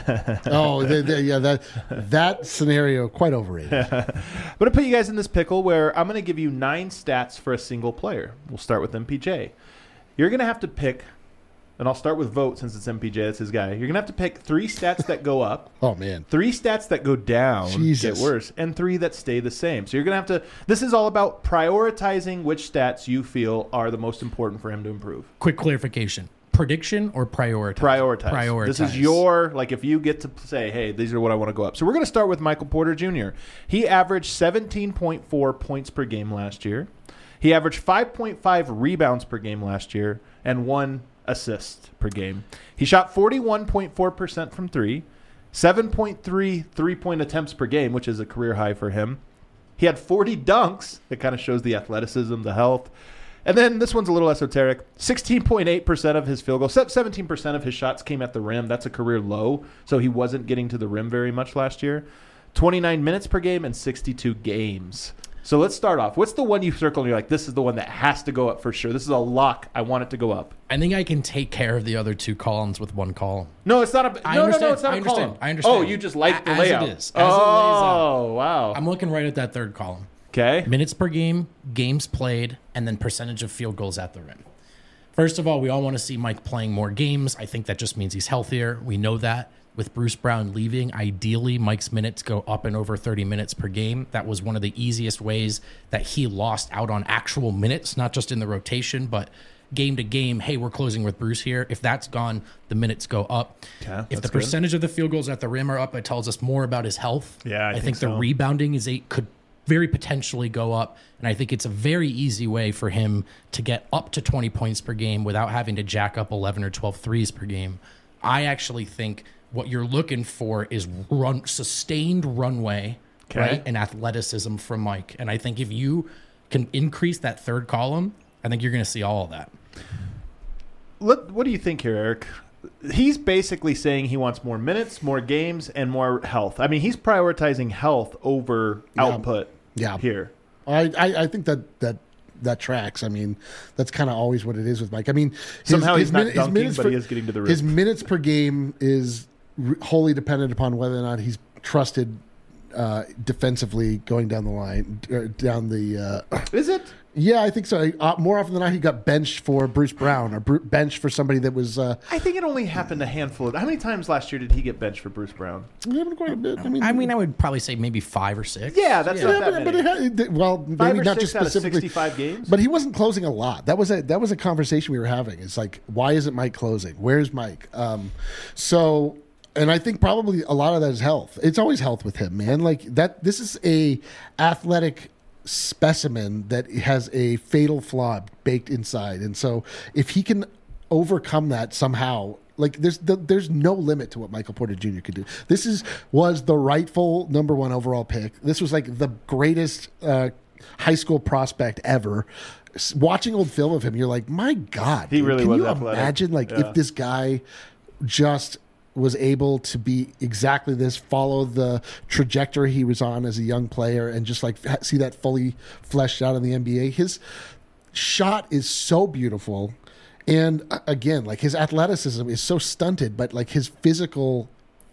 Oh, the, the, yeah, that that scenario quite overrated. I'm going to put you guys in this pickle where I'm going to give you nine stats for a single player. We'll start with M P J. You're going to have to pick, and I'll start with Vote since it's M P J, that's his guy. You're going to have to pick three stats that go up, Oh man. three stats that go down, Jesus. get worse, and three that stay the same. So you're going to have to, this is all about prioritizing which stats you feel are the most important for him to improve. Quick clarification. Prediction or prioritize? Prioritize. Prioritize. This is your, like, if you get to say, hey, these are what I want to go up. So we're going to start with Michael Porter Junior He averaged seventeen point four points per game last year. He averaged five point five rebounds per game last year and one assist per game. He shot forty-one point four percent from three, seven point three three-point attempts per game, which is a career high for him. He had forty dunks. That kind of shows the athleticism, the health. And then this one's a little esoteric. sixteen point eight percent of his field goals, seventeen percent of his shots came at the rim. That's a career low, so he wasn't getting to the rim very much last year. twenty-nine minutes per game and sixty-two games. So let's start off. What's the one you circle and you're like, this is the one that has to go up for sure? This is a lock. I want it to go up. I think I can take care of the other two columns with one column. No, it's not a. I no, no, understand. no, it's not I a understand. column. I understand. Oh, you just like the As layout. it is. As it lays oh, wow. I'm looking right at that third column. Okay. Minutes per game, games played, and then percentage of field goals at the rim. First of all, we all want to see Mike playing more games. I think that just means he's healthier. We know that. With Bruce Brown leaving, ideally, Mike's minutes go up and over thirty minutes per game. That was one of the easiest ways that he lost out on actual minutes, not just in the rotation, but game to game. Hey, we're closing with Bruce here. If that's gone, the minutes go up. Okay, if the that's good. percentage of the field goals at the rim are up, it tells us more about his health. Yeah, I I, think think, the so. rebounding is a could very potentially go up. And I think it's a very easy way for him to get up to twenty points per game without having to jack up eleven or twelve threes per game. I actually think what you're looking for is run sustained runway, Okay. right, and athleticism from Mike. And I think if you can increase that third column, I think you're going to see all of that. Let, what do you think here, Eric? He's basically saying he wants more minutes, more games, and more health. I mean, he's prioritizing health over Yeah. output Yeah. here. I, I, I think that that that tracks. I mean, that's kind of always what it is with Mike. I mean, his, Somehow he's not min- dunking, minutes but per- he is getting to the rim. His minutes per game is r- wholly dependent upon whether or not he's trusted uh, defensively going down the line, or down the. Uh, Is it? yeah, I think so. Uh, more often than not, he got benched for Bruce Brown or Bru- benched for somebody that was. Uh, I think it only happened a handful of. How many times last year did he get benched for Bruce Brown? happened quite a bit. I mean, I mean, I would probably say maybe five or six. Yeah, that's yeah, not that but, many. but it had, it, well, Five maybe or not six just out of specifically. sixty-five games. But he wasn't closing a lot. That was a that was a conversation we were having. It's like, why isn't Mike closing? Where's Mike? Um, so, and I think probably a lot of that is health. It's always health with him, man. Like that. This is a athletic specimen that has a fatal flaw baked inside, and so if he can overcome that somehow. Like there's the, there's no limit to what Michael Porter Junior could do. This is was the rightful number one overall pick. This was like the greatest uh, high school prospect ever. S- Watching old film of him, you're like, my God, He dude, really can was you athletic. imagine like Yeah. if this guy just was able to be exactly this, follow the trajectory he was on as a young player, and just like ha- see that fully fleshed out in the N B A. His shot is so beautiful. And uh, again, like his athleticism is so stunted, but like his physical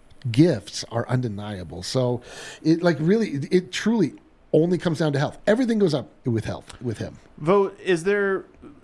gifts are undeniable. So it like really, it, it truly only comes down to health. Everything goes up with health with him. Vote, is there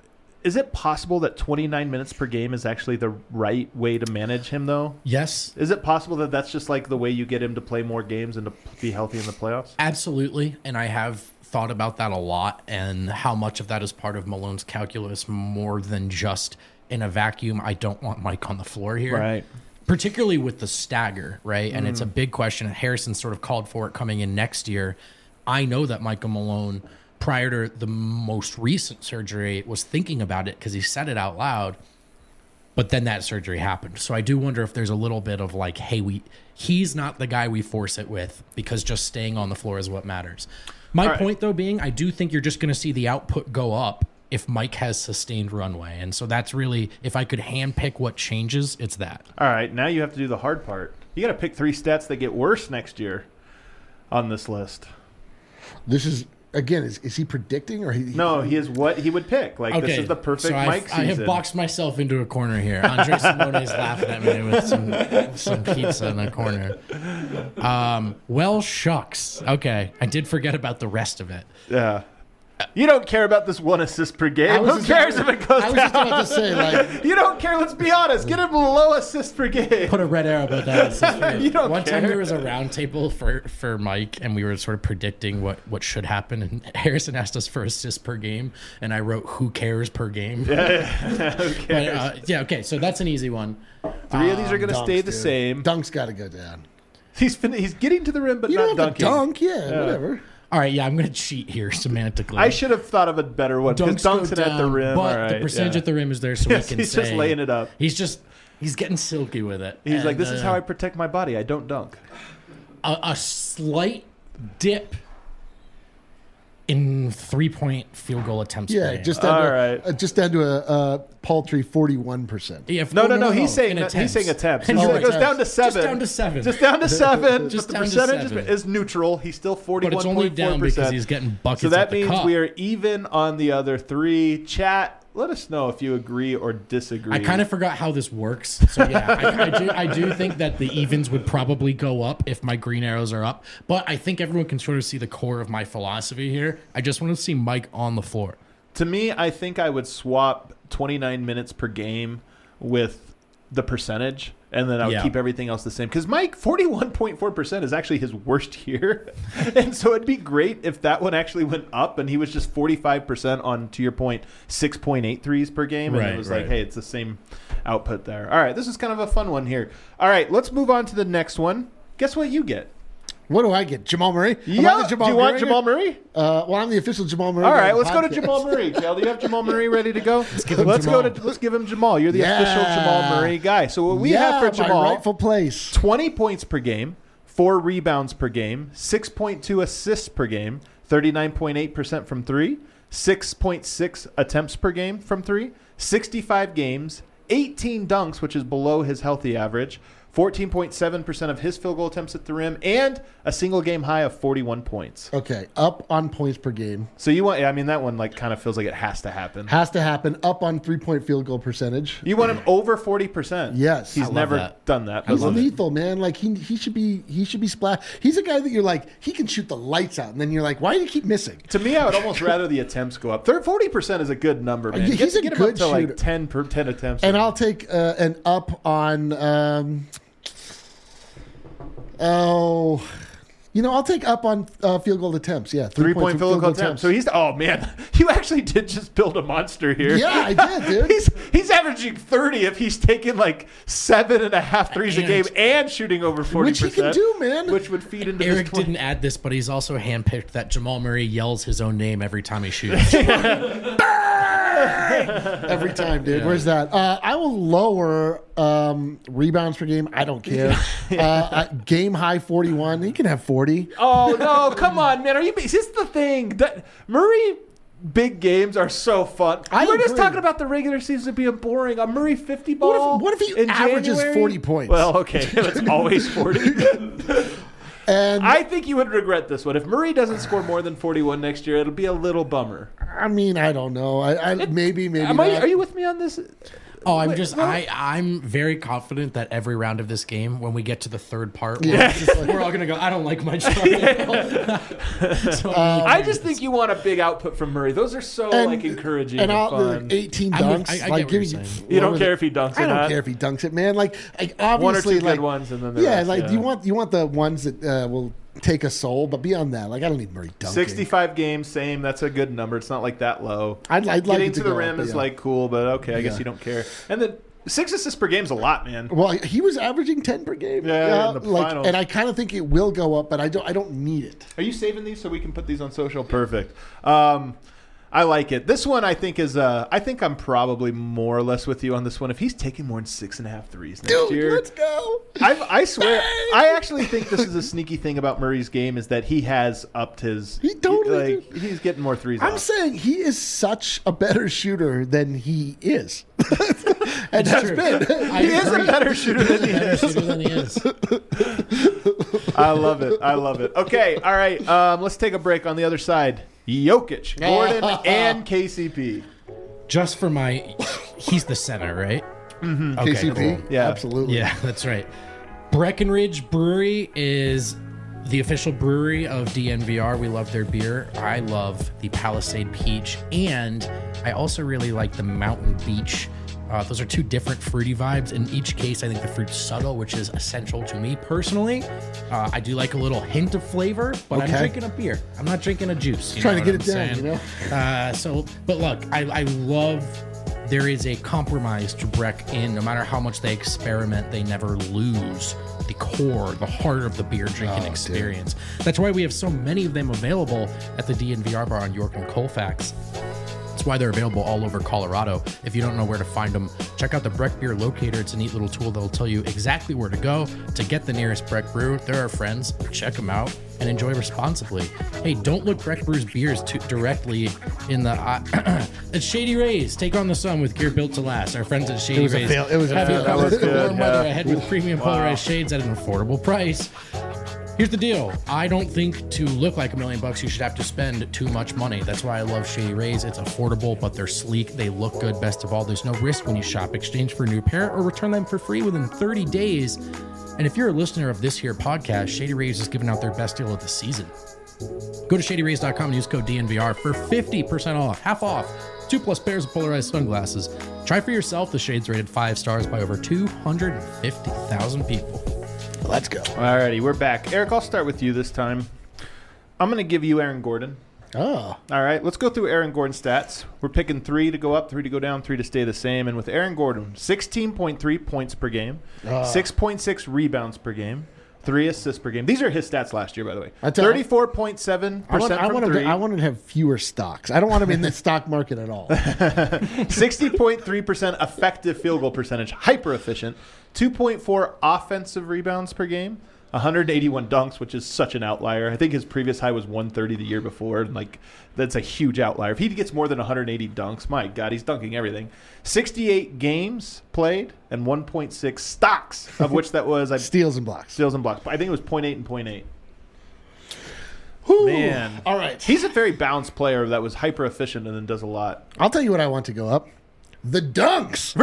is it possible that twenty-nine minutes per game is actually the right way to manage him though? Yes, Is it possible that that's just like the way you get him to play more games and to be healthy in the playoffs? absolutely. And I have thought about that a lot and how much of that is part of Malone's calculus more than just in a vacuum. I don't want Mike on the floor here. Right. Particularly with the stagger, right? And it's a big question. Harrison sort of called for it coming in next year. I know that Michael Malone, prior to the most recent surgery, was thinking about it because he said it out loud. but then that surgery happened. So I do wonder if there's a little bit of like, hey, we he's not the guy we force it with because just staying on the floor is what matters. My right. point, though, being I do think you're just going to see the output go up if Mike has sustained runway. And so that's really, if I could handpick what changes, it's that. All right, now you have to do the hard part. You got to pick three stats that get worse next year on this list. This is, again, is, is he predicting or he? No, he is what he would pick. Like, Okay, this is the perfect so Mike I've, season. I have boxed myself into a corner here. Andre Simone's laughing at me with some, some pizza in the corner. Um, well, shucks. Okay, I did forget about the rest of it. Yeah. You don't care about this one assist per I game. was Who just- cares if it goes I was down? just about to say, like, You don't care. Let's be honest. Get him low assist per game. Put a red arrow about that. You don't One time care. there was a round table for, for Mike, and we were sort of predicting what, what should happen. And Harrison asked us for assists per game, and I wrote "Who cares" per game. Who But, cares? uh, yeah, okay, so that's an easy one. Three of these are going to dunks, stay the dude. same. Dunk's got to go down. He's fin- he's getting to the rim, but You not don't have to dunking. dunk, yeah, whatever. All right, yeah, I'm going to cheat here semantically. I should have thought of a better one because Dunks go dunks it at the down, rim. but All the right, percentage yeah. at the rim is there, so Yes, we can he's say just laying it up. He's just he's getting silky with it. He's like, And, this is uh, how I protect my body. I don't dunk. a, a slight dip in three-point field goal attempts. per Yeah, game. just down All to, right. uh, just down to a, a paltry forty-one percent. Yeah, if- No, oh, no, no. He's saying in that, he's attempts. saying attempts. And He Oh, said it goes attempts. down to seven. Just down to seven. Just down to seven. Just but the down to percentage is, seven. is neutral. He's still but forty-one it's point only four down because percent. he's getting buckets So that at the means cup. we are even on the other three. Chat, let us know if you agree or disagree. I kind of forgot how this works. So yeah, I, I do. I do think that the evens would probably go up if my green arrows are up. But I think everyone can sort of see the core of my philosophy here. I just want to see Mike on the floor. To me, I think I would swap twenty-nine minutes per game with the percentage, and then I would Yeah. keep everything else the same. Because Mike, forty-one point four percent is actually his worst year. And so it'd be great if that one actually went up and he was just forty-five percent on, to your point, six point eight threes per game. And Right, it was right. like, hey, it's the same output there. All right, this is kind of a fun one here. All right, let's move on to the next one. Guess what you get? What do I get? Jamal Murray? Am I Yeah, the Jamal do you want Murray? Jamal Murray? Uh, well, I'm the official Jamal Murray. All guy right, of the let's go to podcast. Jamal Murray. Cal, do you have Jamal Murray ready to go? Let's give him let's go Jamal. to let's give him Jamal. You're the Yeah. official Jamal Murray guy. So what we yeah, have for Jamal: my rightful place. twenty points per game, four rebounds per game, six point two assists per game, thirty-nine point eight percent from three, six point six attempts per game from three, sixty-five games, eighteen dunks, which is below his healthy average, fourteen point seven percent of his field goal attempts at the rim, and a single game high of forty-one points. Okay, up on points per game. So you want, I mean, that one like kind of feels like it has to happen. Has to happen. Up on three-point field goal percentage. You want him over forty percent. Yes. He's I love never that. done that. He's but- lethal, man. Like he he should be he should be splat. He's a guy that you're like he can shoot the lights out, and then you're like, why do you keep missing? To me, I would almost rather the attempts go up. Third, forty percent is a good number, man. He's get, a get him good up to like shooter. ten per ten attempts. And I'll take uh, an up on. Um, oh, you know, I'll take up on uh, field goal attempts. Yeah, three point field goal attempt. So he's oh man, you actually did just build a monster here. Yeah, I did, dude. he's he's averaging thirty if he's taking like seven and a half threes a And- game and shooting over forty Which he percent. can do, man. Which would feed into Eric this twenty. didn't add this, but he's also handpicked that Jamal Murray yells his own name every time he shoots. Every time, dude. Where's that? Uh, I will lower um, rebounds per game. I don't care. uh, uh, game high forty-one. He can have forty. Oh no! Come on, man. Are you? Is this the thing that Murray? Big games are so fun. I We're just agree. talking about the regular season being boring. A Murray fifty ball. What if- what if he in averages January? forty points? Well, okay, it's always forty. And I think you would regret this one if Murray doesn't score more than forty-one next year. It'll be a little bummer. I mean, I don't know. I, I maybe maybe. Am I, not. are you with me on this? Oh, I'm Wait, just well- I I'm very confident that every round of this game, when we get to the third part, Yeah. we're, just like, we're all gonna go. I don't like my job. So, Um, I just think you want a big output from Murray. Those are so And- like encouraging And and, I'll fun. like eighteen I'm with- dunks. I- I get like what you're give me- saying. you don't what care was if he dunks it? or I don't not. care if he dunks it, man. Like, like One or obviously, two good like ones, and then the yeah, rest, like yeah. you want you want the ones that uh, will take a soul, but beyond that, like I don't need Murray dunking. sixty-five games, same. That's a good number. It's not like that low. I'd, I'd like Getting it to to the go rim up, but is yeah. like cool, but okay, I guess Yeah. you don't care. And then six assists per game is a lot, man. Well, he was averaging ten per game. Yeah, in the like, finals. and I kind of think it will go up, but I don't. I don't need it. Are you saving these so we can put these on social? Perfect. Um, I like it. This one, I think, is. Uh, I think I'm probably more or less with you on this one. If he's taking more than six and a half threes next Dude, year, let's go. I, I swear, I actually think this is a sneaky thing about Murray's game is that he has upped his. He totally like, he's getting more threes. I'm off. saying he is such a better shooter than he is, and has true. been. I He is a agree. better shooter than he Better is. shooter than he is. I love it. I love it. Okay, all right. Um, let's take a break. On the other side, Jokic, Gordon, and K C P. Just for my, he's the center, right? Mm-hmm. Okay, K C P, cool. Yeah. absolutely. Yeah, that's right. Breckenridge Brewery is the official brewery of D N V R. We love their beer. I love the Palisade Peach, and I also really like the Mountain Beach. Uh, those are two different fruity vibes. In each case, I think the fruit's subtle, which is essential to me personally. Uh, I do like a little hint of flavor, but Okay. I'm drinking a beer. I'm not drinking a juice. You Trying know to what get it I'm down, saying? you know? Uh, so, but look, I, I love there is a compromise to Breck in no matter how much they experiment, they never lose the core, the heart of the beer drinking Oh, experience. That's why we have so many of them available at the D N V R bar on York and Colfax. That's why they're available all over Colorado. If you don't know where to find them, check out the Breck Beer Locator. It's a neat little tool that'll tell you exactly where to go to get the nearest Breck brew. They're our friends. Check them out and enjoy responsibly. Hey, don't look Breck Brew's beers too directly in the eye. It's Shady Rays. Take on the sun with gear built to last. Our friends at Shady It was a Rays. fail- it was a have you fail- that covered was for good, warm weather yeah. ahead with premium polarized shades at an affordable price. Here's the deal. I don't think to look like a million bucks, you should have to spend too much money. That's why I love Shady Rays. It's affordable, but they're sleek. They look good. Best of all, there's no risk when you shop. Exchange for a new pair or return them for free within thirty days. And if you're a listener of this here podcast, Shady Rays is giving out their best deal of the season. Go to shady rays dot com and use code D N V R for fifty percent off, half off, two plus pairs of polarized sunglasses. Try for yourself. The Shades rated five stars by over two hundred fifty thousand people. Let's go. Alrighty, we're back. Eric, I'll start with you this time. I'm going to give you Aaron Gordon. Oh, All right, let's go through Aaron Gordon's stats. We're picking three to go up, three to go down, three to stay the same. And with Aaron Gordon, sixteen point three points per game, six point six rebounds per game, three assists per game. These are his stats last year, by the way. I tell- thirty-four point seven I want, percent I, from want him three, to, I want him to have fewer stocks. I don't want him in the stock market at all. sixty point three percent effective field goal percentage, hyper efficient, two point four offensive rebounds per game, one hundred eighty-one dunks, which is such an outlier. I think his previous high was one thirty the year before, and like that's a huge outlier. If he gets more than one hundred eighty dunks, my God, he's dunking everything. sixty-eight games played and one point six stocks, of which that was I Steals and blocks. steals and blocks. I think it was point eight and point eight. Whew. Man, All right. he's a very balanced player that was hyper efficient and then does a lot. I'll tell you what I want to go up. The dunks.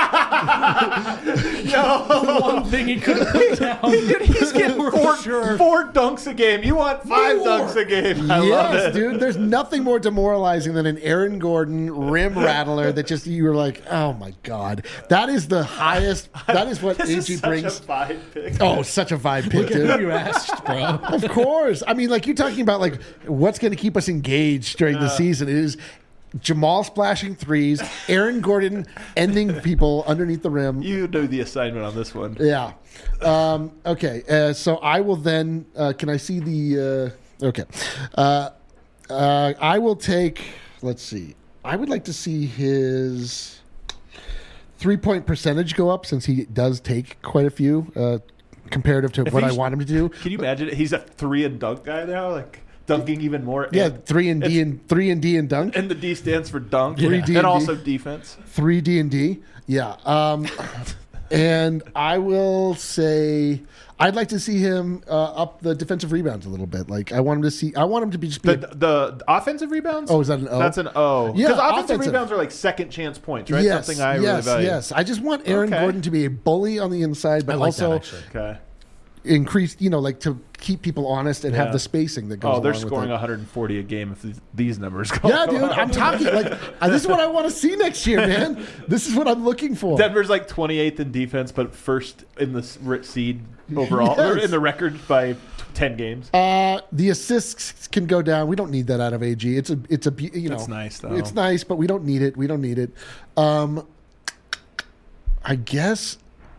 One thing he could put down. Dude, he's getting four, four dunks a game. You want five More. dunks a game. I love Yes, it. dude. There's nothing more demoralizing than an Aaron Gordon rim rattler that just you were like, oh my god, that is the highest. That is what This A is G such brings. a vibe pick. Oh, such a vibe pick, Who dude. you asked, bro? Of course. I mean, like you're talking about like what's going to keep us engaged during the season. It is Jamal splashing threes, Aaron Gordon ending people underneath the rim. You do the assignment on this one. Yeah. Um, okay. Uh, so I will then. Uh, can I see the? Uh, okay. Uh, uh, I will take. Let's see. I would like to see his three-point percentage go up since he does take quite a few uh, comparative to what I he's- want him to do. Can you imagine? He's a three and dunk guy now, like dunking even more. Yeah, And, three and D and three and D and dunk. and the D stands for dunk, Three D and and D. also defense. Three D and D. Yeah. Um, and I will say I'd like to see him uh, up the defensive rebounds a little bit. Like I want him to see. I want him to be just be. The, a- the offensive rebounds. Oh, is that an O? That's an O. Yeah, because offensive, offensive. rebounds are like second chance points, right? yes, Something I yes, really value. yes. I just want Aaron Okay. Gordon to be a bully on the inside, but I like also that actually. Okay. increase. You know, like to keep people honest and Yeah. have the spacing that goes. Oh, they're along with scoring it. one hundred forty a game if these- these numbers go. Yeah, dude, I'm talking like uh, this is what I want to see next year, man. This is what I'm looking for. Denver's like twenty-eighth in defense, but first in the s- r- seed overall, or Yes. in the record by t- ten games. Uh, the assists can go down. We don't need that out of A G. It's a, it's a, bu- you know, That's nice, though. It's nice, but we don't need it. We don't need it. Um, I guess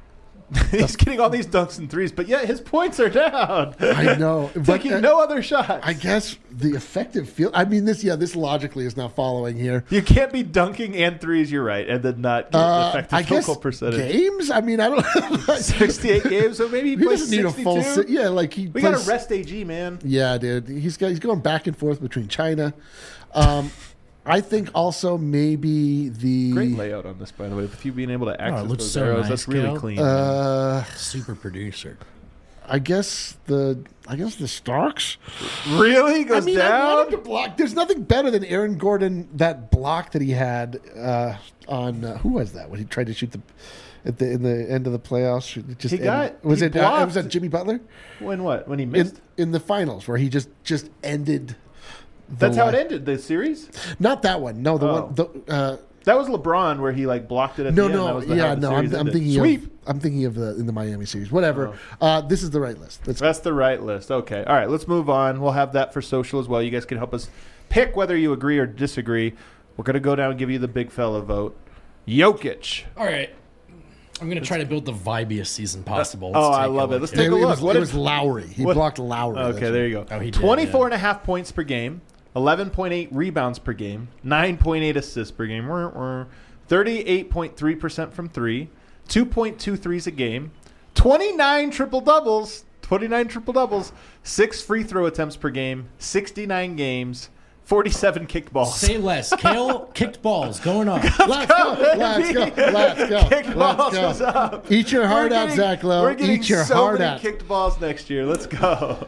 He's getting all these dunks and threes, but yet his points are down. I know. But, Taking uh, no other shots. I guess the effective field. I mean, this. Yeah, this logically is not following here. You can't be dunking and threes. You're right, and then not get Uh, effective I field guess goal percentage. games. I mean, I don't. sixty-eight games, so maybe he, He plays doesn't need a full. sixty-two. Si- yeah, like he. We plays, got to rest A G, man. Yeah, dude. He's got. He's going back and forth between China. Um, I think also maybe the. Great layout on this, by the way. With you being able to access looks those so arrows, nice, that's really Cal. clean. Uh, Super producer. I guess the. I guess the Starks. really goes I mean, I down. wanted to block. There's nothing better than Aaron Gordon. That block that he had uh, on uh, who was that when he tried to shoot the at the in the end of the playoffs. It just He got- ended- was he it? Uh, blocked. was that Jimmy Butler When what? When he missed? in in the finals where he just just ended. The That's how it line. ended. The series. Not that one. No, the Oh. one. The, uh, That was LeBron where he like blocked it at no, the end. That no, was the, yeah, how the no. series I'm, I'm ended. thinking Sweep. of. I'm thinking of the in the Miami series. Whatever. Oh. Uh, this is the right list. Let's That's the right list. Okay. All right. Let's move on. We'll have that for social as well. You guys can help us pick whether you agree or disagree. We're going to go down and give you the big fella vote. Jokic. All right. I'm going to try to build the vibiest season possible. oh, Let's I take a love it. look Let's here. take a it look. was, What it if- was Lowry. He what- blocked Lowry. Okay, there you go. Oh, he did, twenty-four yeah. and a half points per game, eleven point eight rebounds per game, nine point eight assists per game, wah, wah, thirty-eight point three percent from three, two point two threes a game, twenty-nine triple-doubles, twenty-nine triple-doubles, six free throw attempts per game, sixty-nine games, forty-seven kickballs. Say less. Kale kicked balls going up. Let's go. Let's go. Let's go. Kickballs Let's is go. up. Eat your heart We're out, getting- Zach Lowe. We're getting Eat your so heart many out. kicked balls next year. Let's go.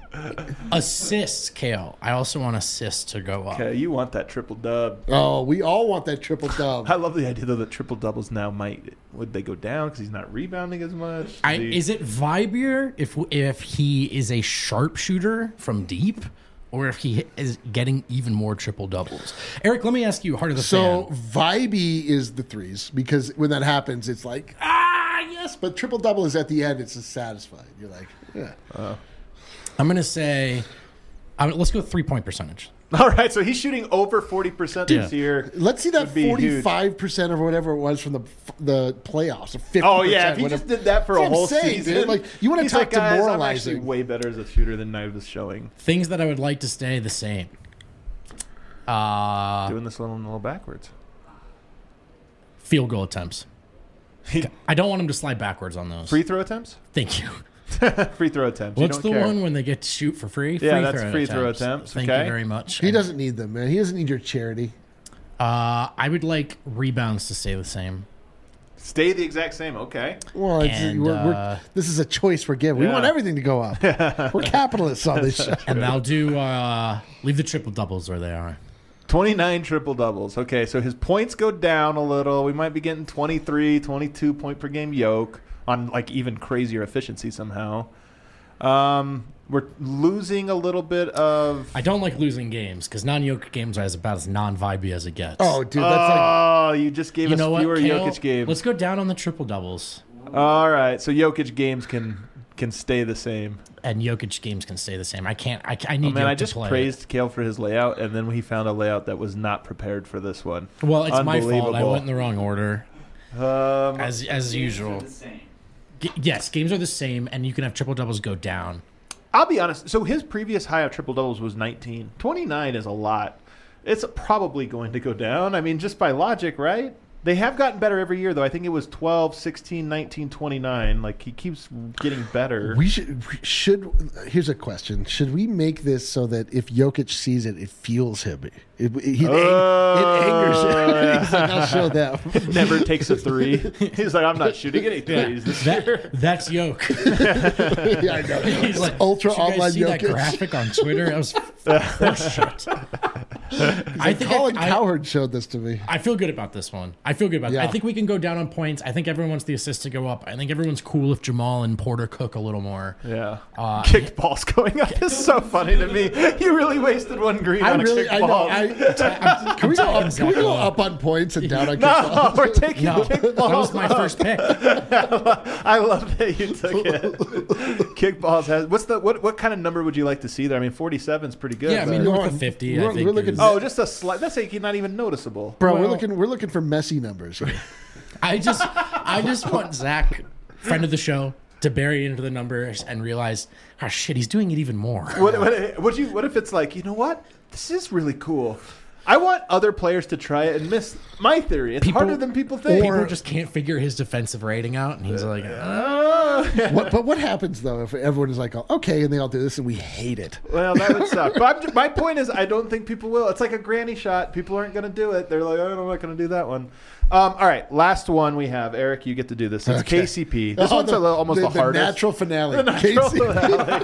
Assists, Kale. I also want assists to go up. Okay, you want that triple dub. Oh, we all want that triple dub. I love the idea though that triple doubles now might would they go down because he's not rebounding as much. I, Does he- is it vibier if if he is a sharpshooter from deep, or if he is getting even more triple doubles? Eric, let me ask you, heart of the So fan. vibey is the threes because when that happens, it's like ah yes, but triple double is at the end. It's just satisfied. You're like yeah. I'm gonna say, I'm, let's go three point percentage. All right, so he's shooting over forty percent this Yeah. year. Let's see that Would be huge. forty-five percent or whatever it was from the the playoffs. Or fifty. Oh yeah, if he just did that for a That's what whole I'm saying, season, dude. Like, you wanna he's talk like, guys, I'm actually demoralizing. way better as a shooter than I was showing. Things that I would like to stay the same. Uh, Doing this a little, a little backwards. field goal attempts. I don't want him to slide backwards on those. Free throw attempts. Thank you. Free throw attempts. You What's don't the care. one when they get to shoot for free? Yeah, free that's throw free throw attempts, Thank okay. you very much. He And, doesn't need them, man. He doesn't need your charity. Uh, I would like rebounds to stay the same. Stay the exact same. Okay. Well, it's, And, we're, we're, uh, this is a choice we're given. We Yeah. want everything to go up. We're capitalists on this show. And I'll do uh, leave the triple doubles where they are. twenty-nine triple doubles. Okay, so his points go down a little. We might be getting twenty-three, twenty-two point per game yoke on like even crazier efficiency somehow. Um, we're losing a little bit of. I don't like losing games because non-yoke games are as about as non-vibey as it gets. Oh, dude, that's like Oh, you just gave you us know what? fewer Kale? Jokic games. Let's go down on the triple doubles, All right, so Jokic games can can stay the same. and Jokic games can stay the same. I can't. I, I need. Oh man, Jokic I to just play. praised Kale for his layout, and then he found a layout that was not prepared for this one. Well, it's my fault. I Unbelievable. went in the wrong order, Um, as as usual. G- yes, games are the same, and you can have triple doubles go down. I'll be honest. So his previous high of triple doubles was nineteen. twenty-nine is a lot. It's probably going to go down. I mean, just by logic, right? They have gotten better every year, though. I think it was twelve, sixteen, nineteen, twenty-nine. Like, he keeps getting better. we should we should. Here's a question: should we make this so that if Jokic sees it, it fuels him? It, it, it, Oh, it angers him. yeah. He's like, I'll show them. Never takes a three. He's like, I'm not shooting any threes this That, year. that's Yoke. Yeah, I know. He's like, Ultra "Did you guys online see that Jokic." graphic on Twitter? That was horseshit. I think Colin I, I, Cowherd showed this to me. I feel good about this one. I feel good about. Yeah. I think we can go down on points. I think everyone wants the assist to go up. I think everyone's cool if Jamal and Porter cook a little more. Yeah. Uh, Kickballs going up is so funny to me. You really wasted one green I on really, a I know. kickball. I, can we go up? Can we go Zach up on points and down on No, kickballs? we're taking No, kickballs. that was my first pick. I love that you took it. Kickballs has what's the what what kind of number would you like to see there? I mean, forty-seven is pretty good. Yeah, I mean, but- We're north on- of fifty. we're- I think we're looking- is- oh, just a slight. That's like not even noticeable. Bro, we're Well- looking. We're looking for messy numbers here. I just, I just want Zach friend of the show, to bury into the numbers and realize, oh shit, he's doing it even more. What, what, what, you, what if it's like, you know what? This is really cool. I want other players to try it and miss my theory. It's People- harder than people think. People just can't figure his defensive rating out, and he's like, Oh. What, but what happens though if everyone is like, okay, and they all do this and we hate it? Well, that would suck. But I'm just, my point is, I don't think people will. It's like a granny shot. People aren't going to do it. They're like, oh, I'm not going to do that one. Um, all right, last one we have. Eric, you get to do this. It's Okay. K C P. This Oh, one's the, a little, almost the, the, the hardest. natural finale. The natural Casey-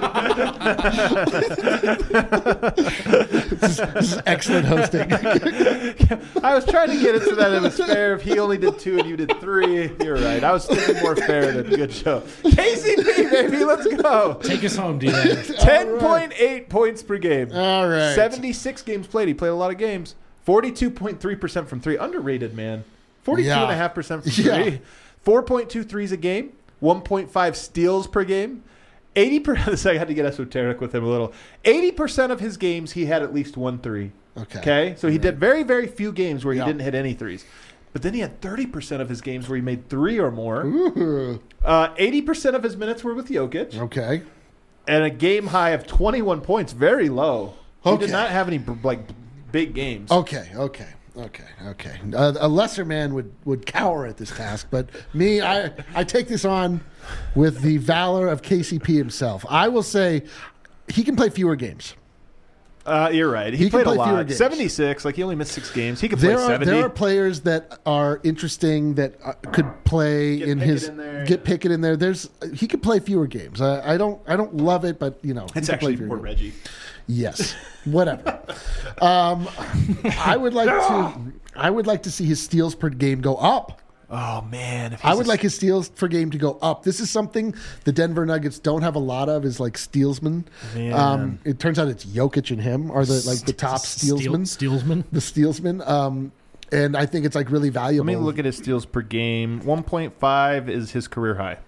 finale. this, is, this is excellent hosting. I was trying to get it so that it was fair. If he only did two and you did three, you're right. I was thinking more fair than good show. K C P, baby, let's go. take us home, D-Lan. ten point eight points per game. All right. seventy-six games played. He played a lot of games. forty-two point three percent from three. Underrated, man. forty-two point five percent from Yeah. three. four point two threes a game. one point five steals per game. eighty percent. I had to get esoteric with him a little. eighty percent of his games, he had at least one three. Okay. Okay? So he did very, very few games where he Yeah. didn't hit any threes. But then he had thirty percent of his games where he made three or more. Ooh. Uh, eighty percent of his minutes were with Jokic. Okay. And a game high of twenty-one points. Very low. He Okay. did not have any, like, big games. Okay. Okay. Okay. Okay. Uh, a lesser man would, would cower at this task, but me, I I take this on with the valor of K C P himself. I will say he can play fewer games. Uh, you're right. He, He can played a play fewer lot. games. seventy-six. Like, he only missed six games. He could play There are seventy. there are players that are interesting that uh, could play Get in Pickett his in there. get Pickett in there. There's he could play fewer games. I, I don't I don't love it, but you know he It's can play actually fewer more games. Reggie. Yes, whatever. um, I would like to I would like to see his steals per game go up. Oh, man. If I he's would a- like his steals per game to go up. This is something the Denver Nuggets don't have a lot of. Is like stealsmen. Man. Um, it turns out it's Jokic and him are the like the top Steel- stealsmen. Steelsman. The stealsmen. Um, and I think it's like really valuable. Let me look at his steals per game. one point five is his career high.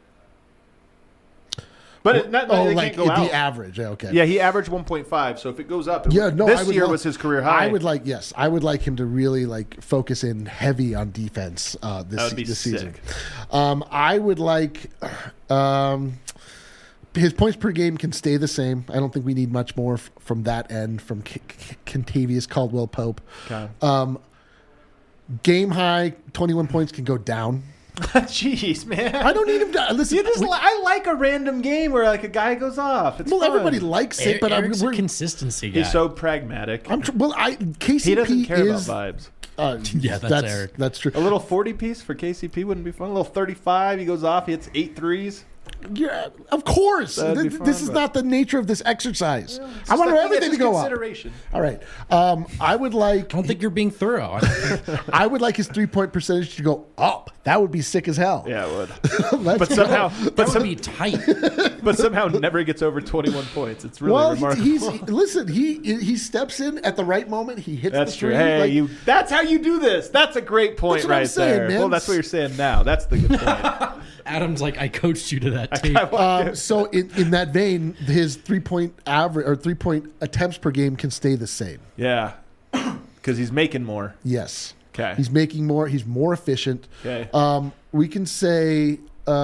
But it, not, oh, it like can't go the out. average. Okay. Yeah, he averaged one point five. So if it goes up, it Yeah, would- no. this I would year love- was his career high. I would like, yes, I would like him to really like focus in heavy on defense uh, this, That would be this season. sick. Um, I would like um, his points per game can stay the same. I don't think we need much more f- from that end from K- K- Kentavious Caldwell Pope. Okay. Um, game high twenty-one points can go down. Jeez, man. I don't need him to listen. You just we- li- I like a random game where like a guy goes off. It's well, fun. everybody likes it, but I'm, Eric's a we're, consistency guy. He's so pragmatic. I'm tr- well. I K C P he doesn't care is about vibes. uh, Yeah, that's that's Eric. that's true. A little forty piece for K C P wouldn't be fun. A little thirty-five. He goes off. He hits eight threes. Yeah, of course. That'd be Th- fun, this is but- not the nature of this exercise. I Just want like- everything it's to go up. consideration. All right. Um, I would like. I don't think you're being thorough. I- I would like his three point percentage to go up. That would be sick as hell. Yeah, it would. Let's But go. somehow, that but, would some, be tight. but somehow never gets over twenty-one points. It's really well, remarkable. he's listen. He he steps in at the right moment. He hits. That's the true. three, Hey, like- you. That's how you do this. That's a great point That's what I'm right saying, there. man. Well, that's what you're saying now. That's the good point. Adam's like, I coached you to that tape. Um, so in, in that vein, his three point average or three point attempts per game can stay the same. Yeah, because he's making more. Yes. Okay. He's making more. He's more efficient. Okay. Um, we can say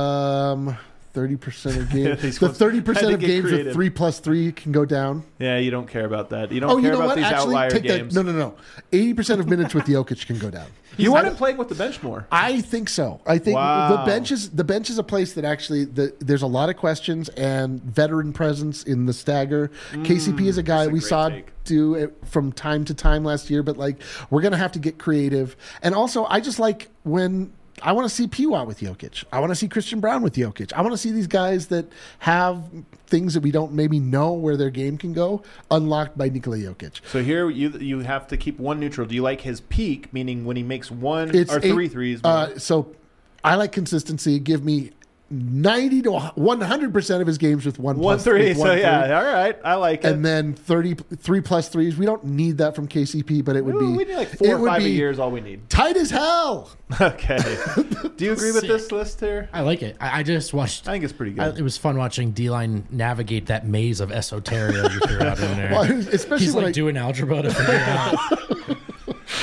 um, thirty percent of games. These the ones- thirty had percent to of get games creative. with three plus three can go down. Yeah, you don't care about that. You don't Oh, care you know about what? these Actually, outlier take games. that. No, no, no. Eighty percent of minutes with Jokic can go down. You want I- him playing with the bench more. I think so. I think Wow. the bench is the bench is a place that actually the, there's a lot of questions and veteran presence in the stagger. K C P is a guy Mm, that's a we great saw take. do it from time to time last year, but like we're gonna have to get creative. And also, I just like when I want to see P W A with Jokic. I want to see Christian Brown with Jokic. I want to see these guys that have things that we don't maybe know where their game can go unlocked by Nikola Jokic. So here you you have to keep one neutral. Do you like his peak, meaning when he makes one It's or eight- three threes? Uh, so I like consistency. Give me ninety to one hundred percent of his games with one, one plus, three. with So one three. yeah, all right, I like it. And then thirty, three plus threes. We don't need that from K C P, but it would Ooh, be we need like four it or would five a be year is all we need. tight as hell. Okay. Do you agree with Sick. this list here? I like it. I, I just watched. I think it's pretty good. I, it was fun watching D-Line navigate that maze of esoteria you threw out in there. Well, especially He's when like I, doing algebra to figure out.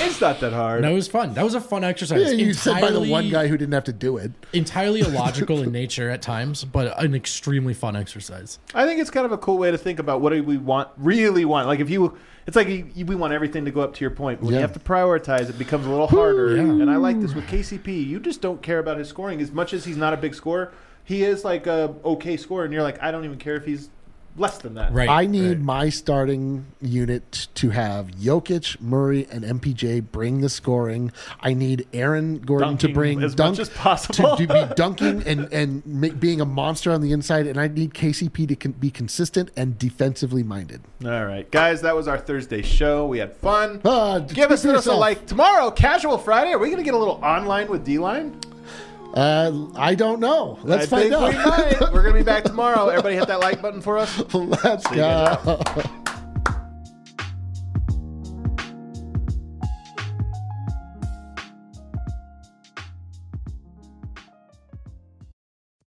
It's not that hard. No, it was fun. That was a fun exercise. Yeah, you said by the Entirely- one guy who didn't have to do it. entirely illogical in nature at times, but an extremely fun exercise. I think it's kind of a cool way to think about what do we want, really want. Like if you, it's like you, you, we want everything to go up to your point. But when Yeah. you have to prioritize, it becomes a little harder. Yeah. And I like this with K C P. You just don't care about his scoring as much as he's not a big scorer. He is like a okay scorer, and you're like, I don't even care if he's less than that. Right. I need right. my starting unit to have Jokic, Murray, and M P J bring the scoring. I need Aaron Gordon Dunking to bring as dunk much as possible. to, to be dunking and and make, being a monster on the inside. And I need K C P to con- be consistent and defensively minded. All right, guys, that was our Thursday show. We had fun. Ah, Give us speak for us a yourself. like tomorrow, Casual Friday. Are we going to get a little online with D-Line? Uh, I don't know. Let's I find think out. we might. We're going to be back tomorrow. Everybody hit that like button for us. Let's See you guys go.